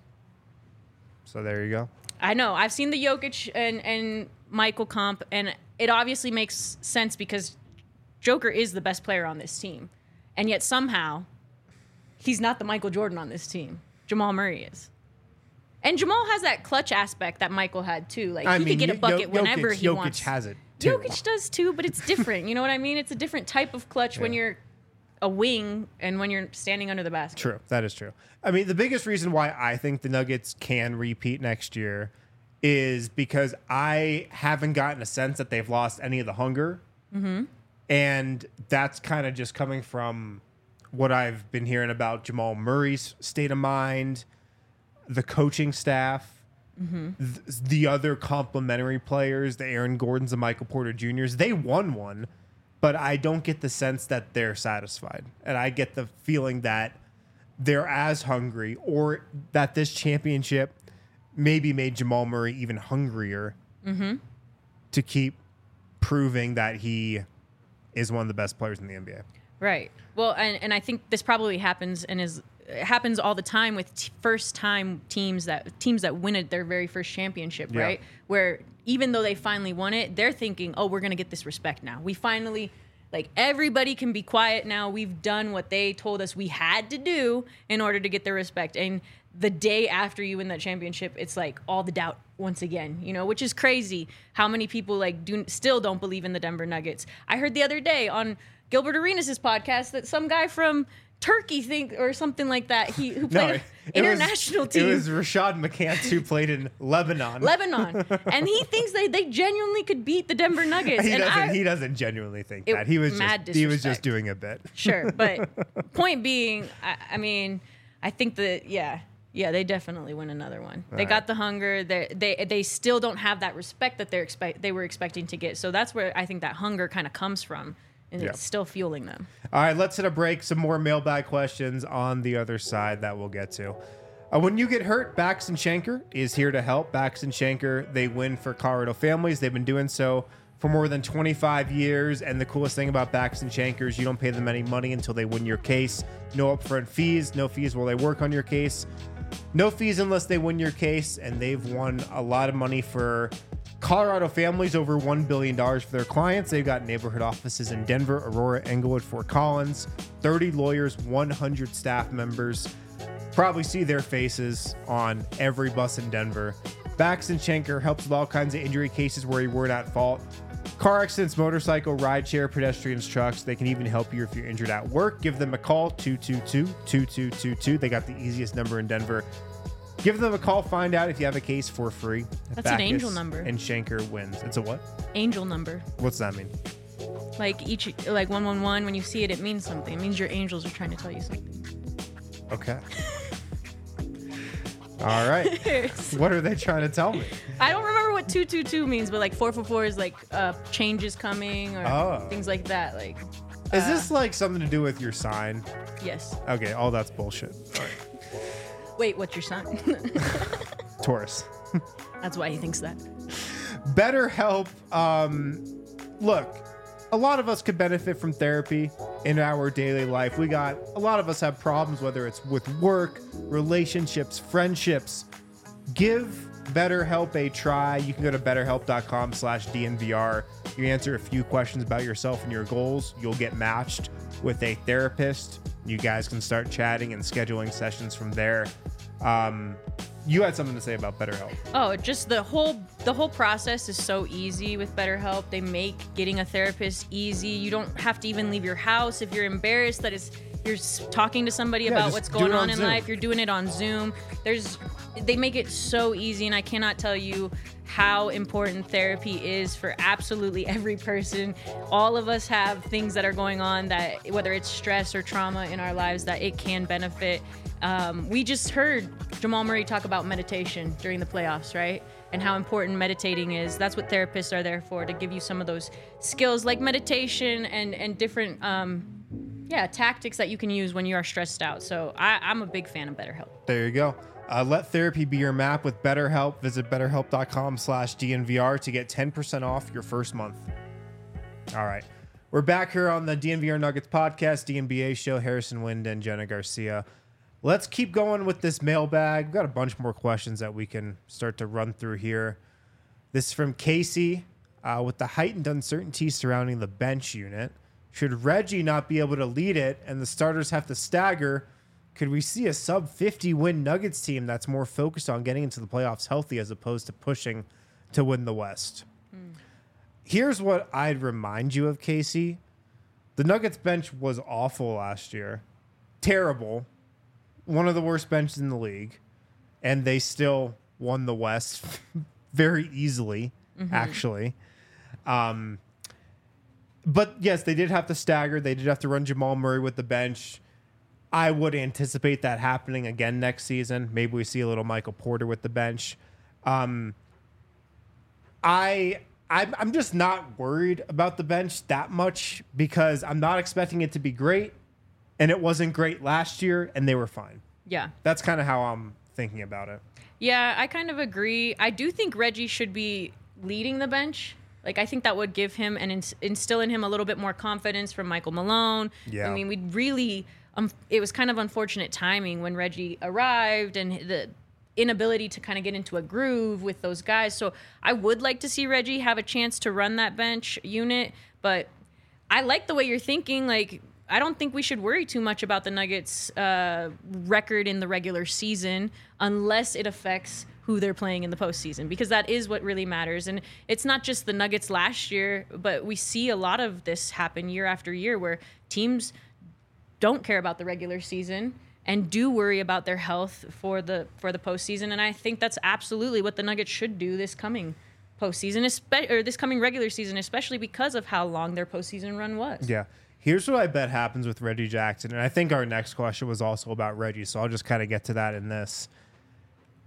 So there you go. I know. I've seen the Jokic and, and Michael comp, and it obviously makes sense because Joker is the best player on this team. And yet somehow he's not the Michael Jordan on this team. Jamal Murray is. And Jamal has that clutch aspect that Michael had too. Like I he mean, could get a Yo- bucket Jokic, whenever he Jokic wants. has it too. Jokic does too, but it's different. You know what I mean? It's a different type of clutch when Yeah. you're a wing and when you're standing under the basket. True. That is true. I mean, the biggest reason why I think the Nuggets can repeat next year is because I haven't gotten a sense that they've lost any of the hunger. Mm-hmm. And that's kind of just coming from what I've been hearing about Jamal Murray's state of mind, the coaching staff, Mm-hmm. th- the other complementary players, the Aaron Gordons and Michael Porter Juniors. They won one, but I don't get the sense that they're satisfied. And I get the feeling that they're as hungry, or that this championship maybe made Jamal Murray even hungrier Mm-hmm. to keep proving that he is one of the best players in the N B A. Right. Well, and, and I think this probably happens and is it happens all the time with t- first time teams that teams that win it their very first championship, Yeah. right? Where even though they finally won it, they're thinking, "Oh, we're going to get this respect now. We finally like everybody can be quiet now. We've done what they told us we had to do in order to get their respect." And the day after you win that championship, it's like all the doubt once again, you know, which is crazy how many people like do still don't believe in the Denver Nuggets. I heard the other day on Gilbert Arenas' podcast that some guy from Turkey think or something like that. He who played No, an it was- international team. It was Rashad McCants who played in Lebanon. Lebanon, and he thinks they, they genuinely could beat the Denver Nuggets. He and doesn't. I, he doesn't genuinely think It- that. He was mad just. He was disrespect. just doing a bit. Sure, but point being, I, I mean, I think that yeah, Yeah, they definitely win another one. All they right. got the hunger. They they they still don't have that respect that they're expect they were expecting to get. So that's where I think that hunger kind of comes from, and Yeah. it's still fueling them. All right, let's hit a break. Some more mailbag questions on the other side that we'll get to. Uh, when you get hurt, Bax and Schenker is here to help. Bax and Schenker, they win for Colorado families. They've been doing so for more than twenty-five years. And the coolest thing about Bax and Schenker is you don't pay them any money until they win your case. No upfront fees, no fees while they work on your case. No fees unless they win your case. And they've won a lot of money for Colorado families, over one billion dollars for their clients. They've got neighborhood offices in Denver, Aurora, Englewood, Fort Collins, thirty lawyers, one hundred staff members. Probably see their faces on every bus in Denver. Bax and Schenker helps with all kinds of injury cases where you weren't at fault. Car accidents, motorcycle, rideshare, pedestrians, trucks. They can even help you if you're injured at work. Give them a call, two two two, two two two two. They got the easiest number in Denver. Give them a call. Find out if you have a case for free. That's an Backus angel number. And Schenker wins. It's a what? Angel number. What's that mean? Like each like one one one. When you see it, it means something. It means your angels are trying to tell you something. Okay. All right. What are they trying to tell me? I don't remember what two two two means, but like four four four is like uh, changes coming or Oh. things like that. Like, Is uh, this like something to do with your sign? yes. Okay, all that's bullshit. All right. Wait, what's your sign? Taurus. That's why he thinks that. BetterHelp. Um, look, a lot of us could benefit from therapy in our daily life. We got a lot of us have problems, whether it's with work, relationships, friendships. Give BetterHelp a try. You can go to betterhelp.com slash DNVR. You answer a few questions about yourself and your goals. You'll get matched with a therapist. You guys can start chatting and scheduling sessions from there. Um, you had something to say about BetterHelp. Oh, just the whole the whole process is so easy with BetterHelp. They make getting a therapist easy. You don't have to even leave your house if you're embarrassed that it's you're s- talking to somebody Yeah, about just what's do going it on on in Zoom. life. You're doing it on Zoom. There's they make it so easy, and I cannot tell you how important therapy is for absolutely every person. All of us have things that are going on that, whether it's stress or trauma in our lives, that it can benefit. Um, we just heard Jamal Murray talk about meditation during the playoffs, right? And how important meditating is. That's what therapists are there for, to give you some of those skills like meditation and, and different um, yeah, tactics that you can use when you are stressed out. So I, I'm a big fan of BetterHelp. There you go. Uh, let therapy be your map with BetterHelp. Visit betterhelp.com slash DNVR to get ten percent off your first month. All right. We're back here on the D N V R Nuggets podcast, D N B A show. Harrison Wind and Jenna Garcia. Let's keep going with this mailbag. We've got a bunch more questions that we can start to run through here. This is from Casey. Uh, with the heightened uncertainty surrounding the bench unit, should Reggie not be able to lead it and the starters have to stagger, could we see a sub fifty win Nuggets team that's more focused on getting into the playoffs healthy as opposed to pushing to win the West? Mm. Here's what I'd remind you of, Casey. The Nuggets bench was awful last year. Terrible. One of the worst benches in the league. And they still won the West very easily, mm-hmm. actually. Um, but yes, they did have to stagger. They did have to run Jamal Murray with the bench. I would anticipate that happening again next season. Maybe we see a little Michael Porter with the bench. Um, I, I'm, I'm just not worried about the bench that much because I'm not expecting it to be great, and it wasn't great last year, and they were fine. Yeah. That's kind of how I'm thinking about it. Yeah, I kind of agree. I do think Reggie should be leading the bench. Like, I think that would give him and ins- instill in him a little bit more confidence from Michael Malone. Yeah. I mean, we really... Um, it was kind of unfortunate timing when Reggie arrived and the inability to kind of get into a groove with those guys. So I would like to see Reggie have a chance to run that bench unit, but I like the way you're thinking. Like, I don't think we should worry too much about the Nuggets' uh, record in the regular season unless it affects who they're playing in the postseason, because that is what really matters. And it's not just the Nuggets last year, but we see a lot of this happen year after year where teams don't care about the regular season and do worry about their health for the for the postseason. And I think that's absolutely what the Nuggets should do this coming postseason, espe- or this coming regular season, especially because of how long their postseason run was. Yeah. Here's what I bet happens with Reggie Jackson. And I think our next question was also about Reggie, so I'll just kind of get to that in this.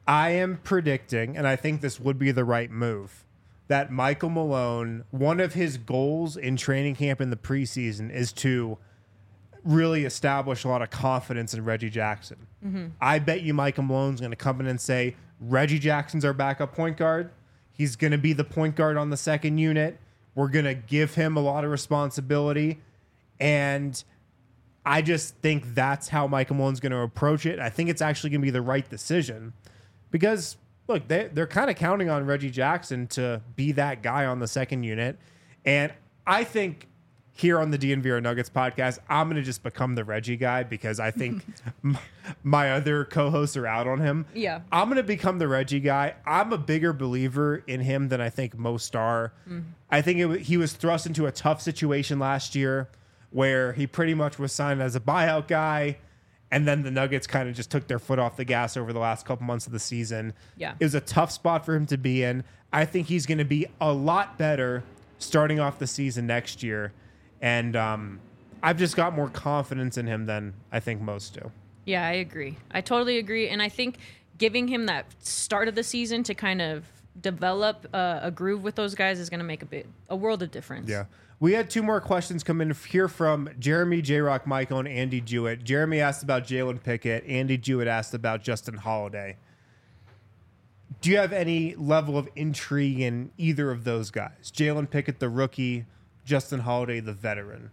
I am predicting, and I think this would be the right move, that Michael Malone, one of his goals in training camp in the preseason is to really establish a lot of confidence in Reggie Jackson. Mm-hmm. I bet you Michael Malone's going to come in and say, Reggie Jackson's our backup point guard. He's going to be the point guard on the second unit. We're going to give him a lot of responsibility. And I just think that's how Michael Malone's going to approach it. I think it's actually going to be the right decision because, look, they, they're kind of counting on Reggie Jackson to be that guy on the second unit. And I think here on the D N V R Nuggets podcast, I'm going to just become the Reggie guy because I think m- my other co-hosts are out on him. Yeah. I'm going to become the Reggie guy. I'm a bigger believer in him than I think most are. Mm. I think it w- he was thrust into a tough situation last year where he pretty much was signed as a buyout guy, and then the Nuggets kind of just took their foot off the gas over the last couple months of the season. Yeah. It was a tough spot for him to be in. I think he's going to be a lot better starting off the season next year. And um, I've just got more confidence in him than I think most do. Yeah, I agree. I totally agree. And I think giving him that start of the season to kind of develop uh, a groove with those guys is going to make a bit a world of difference. Yeah. We had two more questions come in here from Jeremy, J-Rock, Michael, and Andy Jewett. Jeremy asked about Jalen Pickett. Andy Jewett asked about Justin Holiday. Do you have any level of intrigue in either of those guys? Jalen Pickett, the rookie, Justin Holiday, the veteran.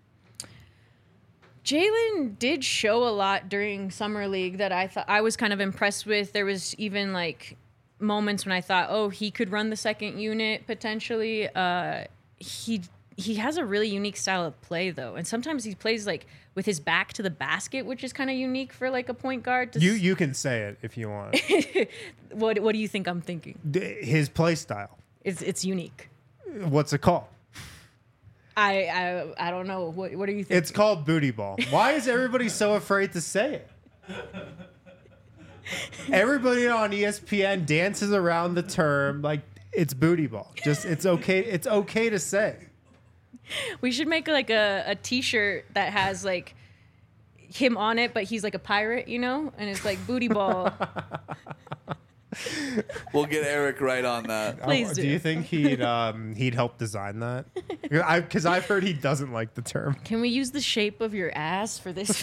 Jalen did show a lot during Summer League that I thought I was kind of impressed with. There was even like moments when I thought, oh, he could run the second unit potentially. Uh, he he has a really unique style of play though, and sometimes he plays like with his back to the basket, which is kind of unique for like a point guard. To you you can say it if you want. what What do you think I'm thinking? His play style. It's it's unique. What's it called? I, I I don't know. What what are you thinking? It's called booty ball. Why is everybody so afraid to say it? Everybody on E S P N dances around the term like it's booty ball. Just it's okay. It's okay to say. We should make like a, a T-shirt that has like him on it, but he's like a pirate, you know, and it's like booty ball. We'll get Eric right on that. Please oh, do. Do you think he'd um, he'd help design that? Because I've heard he doesn't like the term. Can we use the shape of your ass for this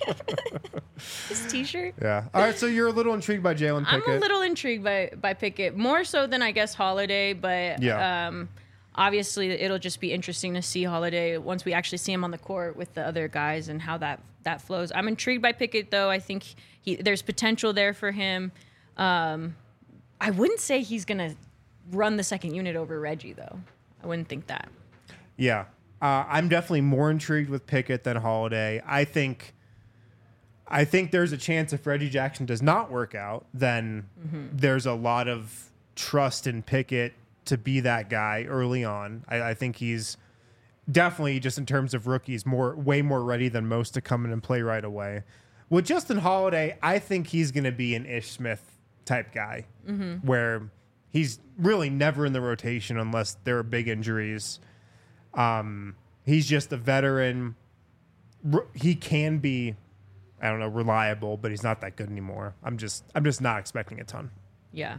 this T-shirt? Yeah. All right. So you're a little intrigued by Jalen Pickett. I'm a little intrigued by by Pickett, more so than I guess Holiday, but Yeah. um, obviously it'll just be interesting to see Holiday once we actually see him on the court with the other guys and how that that flows. I'm intrigued by Pickett though. I think he there's potential there for him. Um, I wouldn't say he's going to run the second unit over Reggie, though. I wouldn't think that. Yeah. Uh, I'm definitely more intrigued with Pickett than Holiday. I think I think there's a chance if Reggie Jackson does not work out, then mm-hmm. there's a lot of trust in Pickett to be that guy early on. I, I think he's definitely, just in terms of rookies, more way more ready than most to come in and play right away. With Justin Holiday, I think he's going to be an Ish Smith type guy mm-hmm. where he's really never in the rotation unless there are big injuries. Um, he's just a veteran. He can be, I don't know, reliable, but he's not that good anymore. I'm just, I'm just not expecting a ton. Yeah.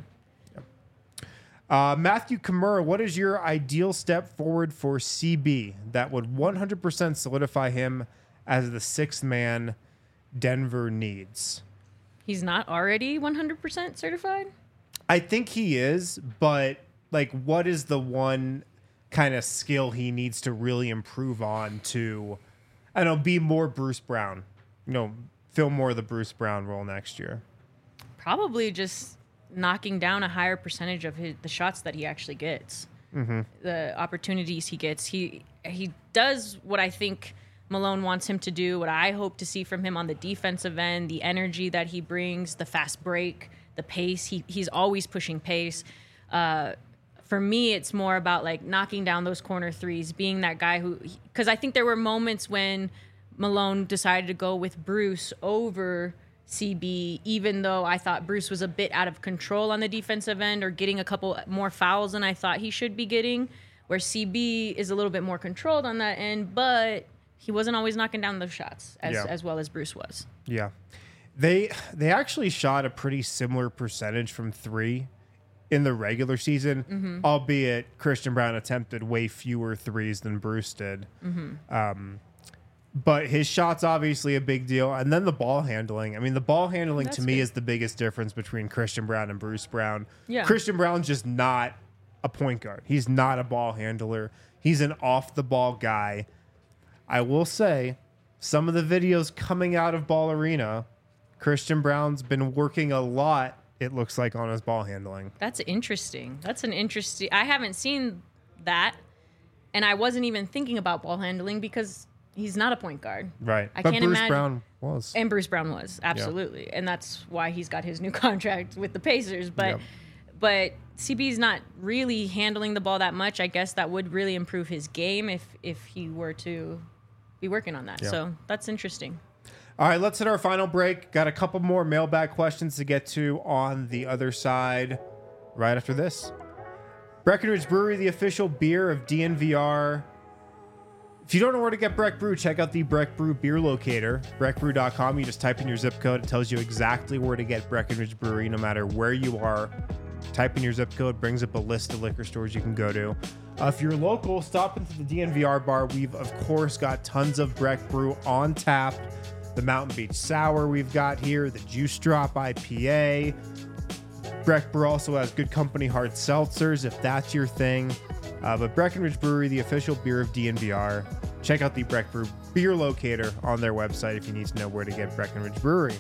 Uh, Matthew Kimura, what is your ideal step forward for C B that would one hundred percent solidify him as the sixth man Denver needs? He's not already one hundred percent certified? I think he is, but like, what is the one kind of skill he needs to really improve on to, I don't know, be more Bruce Brown? You know, fill more of the Bruce Brown role next year. Probably just knocking down a higher percentage of his, the shots that he actually gets, mm-hmm. the opportunities he gets. He he does what I think Malone wants him to do, what I hope to see from him on the defensive end, the energy that he brings, the fast break, the pace. He he's always pushing pace. Uh, for me, it's more about like knocking down those corner threes, being that guy who, because I think there were moments when Malone decided to go with Bruce over C B, even though I thought Bruce was a bit out of control on the defensive end or getting a couple more fouls than I thought he should be getting, where C B is a little bit more controlled on that end, but he wasn't always knocking down those shots as, yeah. as well as Bruce was. Yeah. They they actually shot a pretty similar percentage from three in the regular season, Mm-hmm. albeit Christian Brown attempted way fewer threes than Bruce did. Mm-hmm. Um, but his shot's obviously a big deal. And then the ball handling. I mean, the ball handling That's to me good. is the biggest difference between Christian Brown and Bruce Brown. Yeah. Christian Brown's just not a point guard. He's not a ball handler. He's an off-the-ball guy. I will say, some of the videos coming out of Ball Arena, Christian Brown's been working a lot, it looks like, on his ball handling. That's interesting. That's an interesting. I haven't seen that, and I wasn't even thinking about ball handling because he's not a point guard. Right. I but can't Bruce imagine- Brown was. And Bruce Brown was absolutely, and that's why he's got his new contract with the Pacers. But, Yep. but C B's not really handling the ball that much. I guess that would really improve his game if if he were to be working on that. Yeah. So that's interesting. All right, let's hit our final break. Got a couple more mailbag questions to get to on the other side right after this. Breckenridge Brewery, the official beer of D N V R. If you don't know where to get Breck Brew, check out the Breck Brew beer locator, breck brew dot com. You just type in your zip code. It tells you exactly where to get Breckenridge Brewery no matter where you are. Type in your zip code, brings up a list of liquor stores you can go to. Uh, if you're local, stop into the D N V R bar. We've, of course, got tons of Breck Brew on tap. The Mountain Beach Sour we've got here, the Juice Drop I P A. Breck Brew also has Good Company hard seltzers, if that's your thing. Uh, but Breckenridge Brewery, the official beer of D N V R. Check out the Breck Brew beer locator on their website if you need to know where to get Breckenridge Brewery.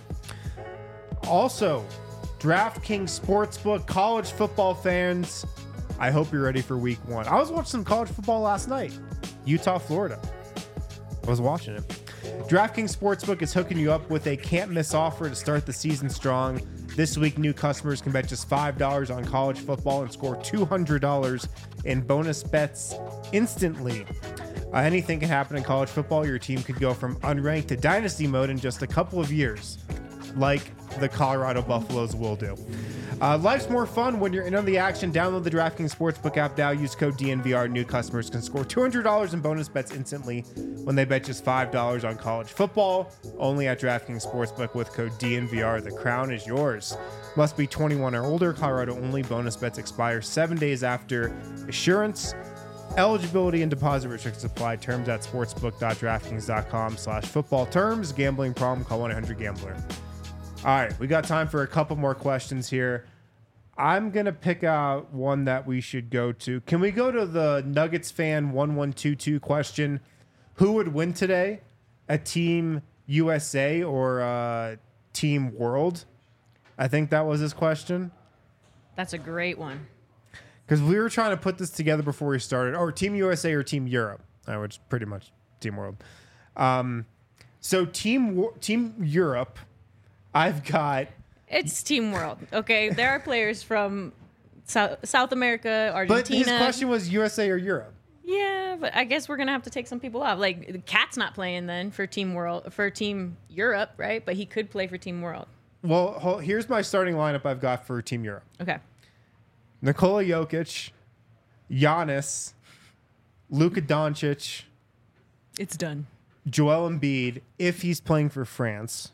Also, DraftKings Sportsbook, college football fans, I hope you're ready for week one. I was watching some college football last night. Utah, Florida. I was watching it. DraftKings Sportsbook is hooking you up with a can't-miss offer to start the season strong. This week, new customers can bet just five dollars on college football and score two hundred dollars in bonus bets instantly. Uh, anything can happen in college football. Your team could go from unranked to dynasty mode in just a couple of years, like the Colorado Buffaloes will do. Uh, life's more fun when you're in on the action. Download the DraftKings Sportsbook app now. Use code D N V R. New customers can score two hundred dollars in bonus bets instantly when they bet just five dollars on college football. Only at DraftKings Sportsbook with code D N V R. The crown is yours. Must be twenty-one or older. Colorado only. Bonus bets expire seven days after issuance. Eligibility and deposit restrictions apply. Terms at sportsbook dot draftkings dot com slash football terms. Gambling problem? Call one eight hundred gambler. All right, we got time for a couple more questions here. I'm going to pick out one that we should go to. Can we go to the Nuggets fan one one two two question? Who would win today? A Team U S A or a Team World? I think that was his question. That's a great one. Because we were trying to put this together before we started. Or Team U S A or Team Europe, uh, which is pretty much Team World. Um, so Team Wo- Team Europe, I've got... It's Team World. Okay, there are players from South, South America, Argentina. But his question was U S A or Europe. Yeah, but I guess we're gonna have to take some people off. Like the Cat's not playing then for Team World for Team Europe, right? But he could play for Team World. Well, hol- here's my starting lineup I've got for Team Europe. Okay. Nikola Jokic, Giannis, Luka Doncic, It's done. Joel Embiid, if he's playing for France.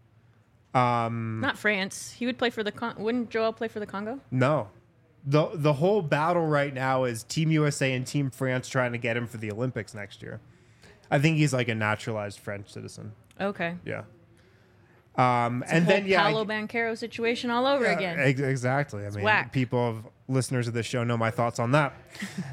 Um, Not France. He would play for the Con- wouldn't Joel play for the Congo? no. The the whole battle right now is Team U S A and Team France trying to get him for the Olympics next year. I think he's like a naturalized French citizen. Okay. Yeah. Um, It's a and whole then yeah, I- Paolo Banchero situation all over Yeah, again. ex- exactly. I mean, whack. people of listeners of this show know my thoughts on that.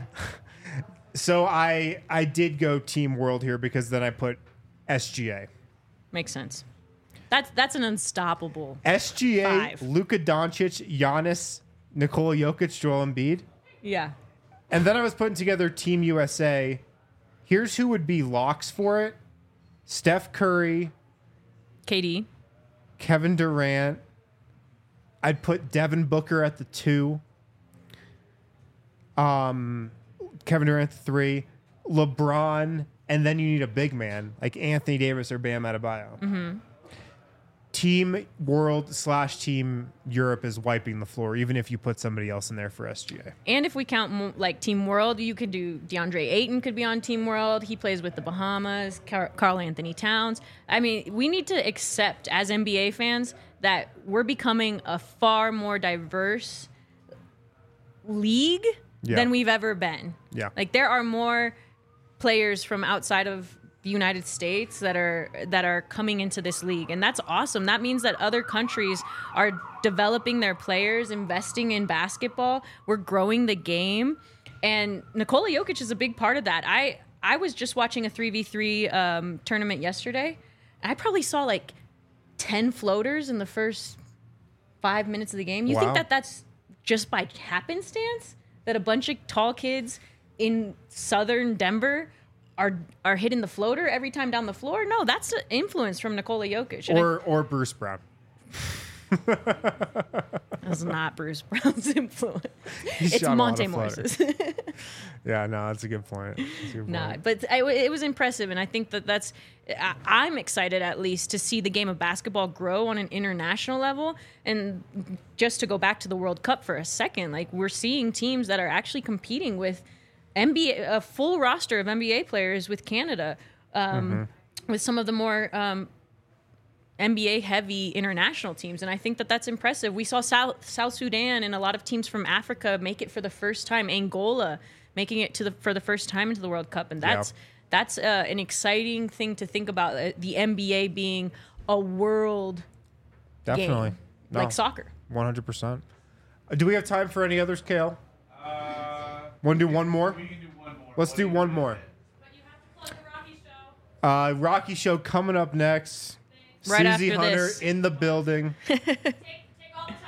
So I I did go Team World here because then I put S G A. Makes sense. That's that's an unstoppable. S G A, Five. Luka Doncic, Giannis, Nikola Jokic, Joel Embiid. Yeah. And then I was putting together Team U S A. Here's who would be locks for it. Steph Curry, K D. Kevin Durant. I'd put Devin Booker at the two. Um, Kevin Durant at the three. LeBron, and then you need a big man like Anthony Davis or Bam Adebayo. Mm-hmm. Team World slash Team Europe is wiping the floor, even if you put somebody else in there for S G A. And if we count mo- like Team World, you could do DeAndre Ayton could be on Team World. He plays with the Bahamas. Car- Karl Anthony Towns. I mean, we need to accept as N B A fans that we're becoming a far more diverse league Yeah. than we've ever been. Yeah. Like there are more players from outside of the United States that are that are coming into this league, and that's awesome. That means that other countries are developing their players, investing in basketball. We're growing the game, and Nikola Jokic is a big part of that. I I was just watching a three v three um, tournament yesterday. I probably saw like ten floaters in the first five minutes of the game. You Wow. think that that's just by happenstance that a bunch of tall kids in southern Denver are are hitting the floater every time down the floor? No, that's an influence from Nikola Jokic. And Or or Bruce Brown. That's not Bruce Brown's influence. He It's shot a lot Monte of Morris's. Yeah, no, that's a good point. That's a good Nah, point. but I, it was impressive, and I think that that's. I, I'm excited at least to see the game of basketball grow on an international level, and just to go back to the World Cup for a second, like we're seeing teams that are actually competing with N B A, a full roster of N B A players with Canada, um, Mm-hmm. with some of the more um, N B A heavy international teams, and I think that that's impressive. We saw South South Sudan and a lot of teams from Africa make it for the first time. Angola making it to the for the first time into the World Cup, and that's Yeah. that's uh, an exciting thing to think about. Uh, the N B A being a world Definitely. game, No, like soccer. one hundred percent. Uh, Do we have time for any others, Kale? Uh, Want to do one more? we can do one more. Let's What do you one do more. with it? But you have to plug the Rocky Show. Uh, Rocky Show coming up next. Right Susie after Hunter this. in the building. Take, take all the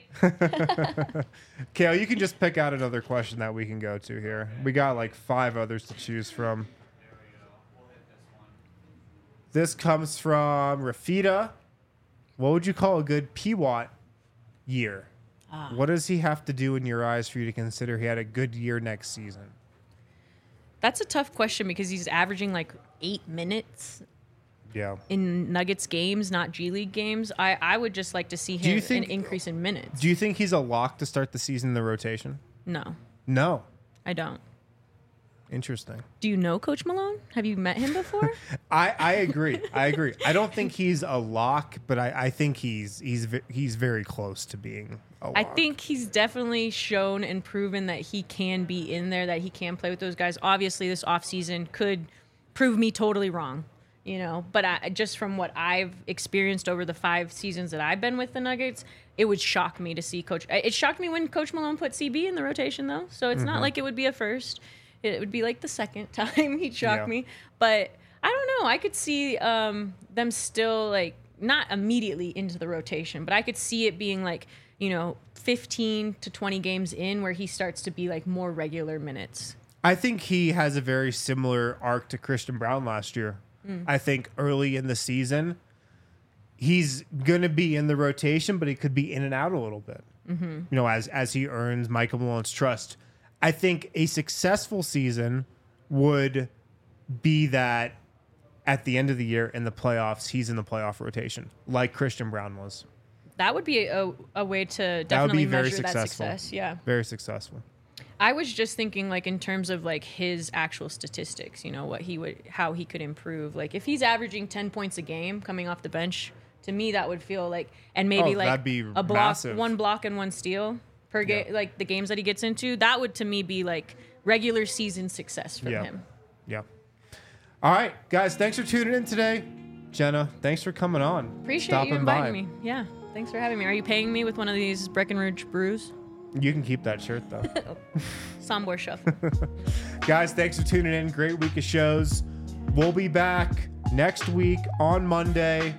time you need. Kale, you can just pick out another question that we can go to here. We got like five others to choose from. There we go. We'll hit this one. This comes from Rafita. What would you call a good P W A T year? Ah. What does he have to do in your eyes for you to consider he had a good year next season? That's a tough question because he's averaging like eight minutes Yeah. in Nuggets games, not G League games. I, I would just like to see Do you him think- an increase in minutes. Do you think he's a lock to start the season in the rotation? No, No. I don't. Interesting. Do you know Coach Malone? Have you met him before? I, I agree. I agree. I don't think he's a lock, but I, I think he's he's ve- he's very close to being a lock. I think he's definitely shown and proven that he can be in there, that he can play with those guys. Obviously, this offseason could prove me totally wrong, you know, but I, just from what I've experienced over the five seasons that I've been with the Nuggets, it would shock me to see Coach. It shocked me when Coach Malone put C B in the rotation, though, so it's not like it would be a first. It would be like the second time he'd shock Yeah. me. But I don't know. I could see um, them still, like, not immediately into the rotation, but I could see it being like, you know, fifteen to twenty games in where he starts to be like more regular minutes. I think he has a very similar arc to Christian Brown last year. I think early in the season, he's going to be in the rotation, but he could be in and out a little bit. Mm-hmm. You know, as as he earns Michael Malone's trust. I think a successful season would be that at the end of the year in the playoffs, he's in the playoff rotation, like Christian Brown was. That would be a, a way to That would definitely be very measure successful. that success. Yeah. Very successful. I was just thinking like in terms of like his actual statistics, you know, what he would, how he could improve. Like if he's averaging ten points a game coming off the bench, to me that would feel like, and maybe Oh, like that'd be a block, massive. one block and one steal per game, Yeah. like the games that he gets into, that would to me be like regular season success for Yeah. him. Yeah. All right, guys, thanks for tuning in today. Jenna, thanks for coming on. Appreciate Stopping you inviting by. me. Yeah. Thanks for having me. Are you paying me with one of these Breckenridge brews? You can keep that shirt, though. Sombor Shuffle. Guys, thanks for tuning in. Great week of shows. We'll be back next week on Monday.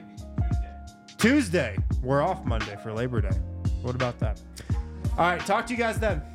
Tuesday. We're off Monday for Labor Day. What about that? All right, talk to you guys then.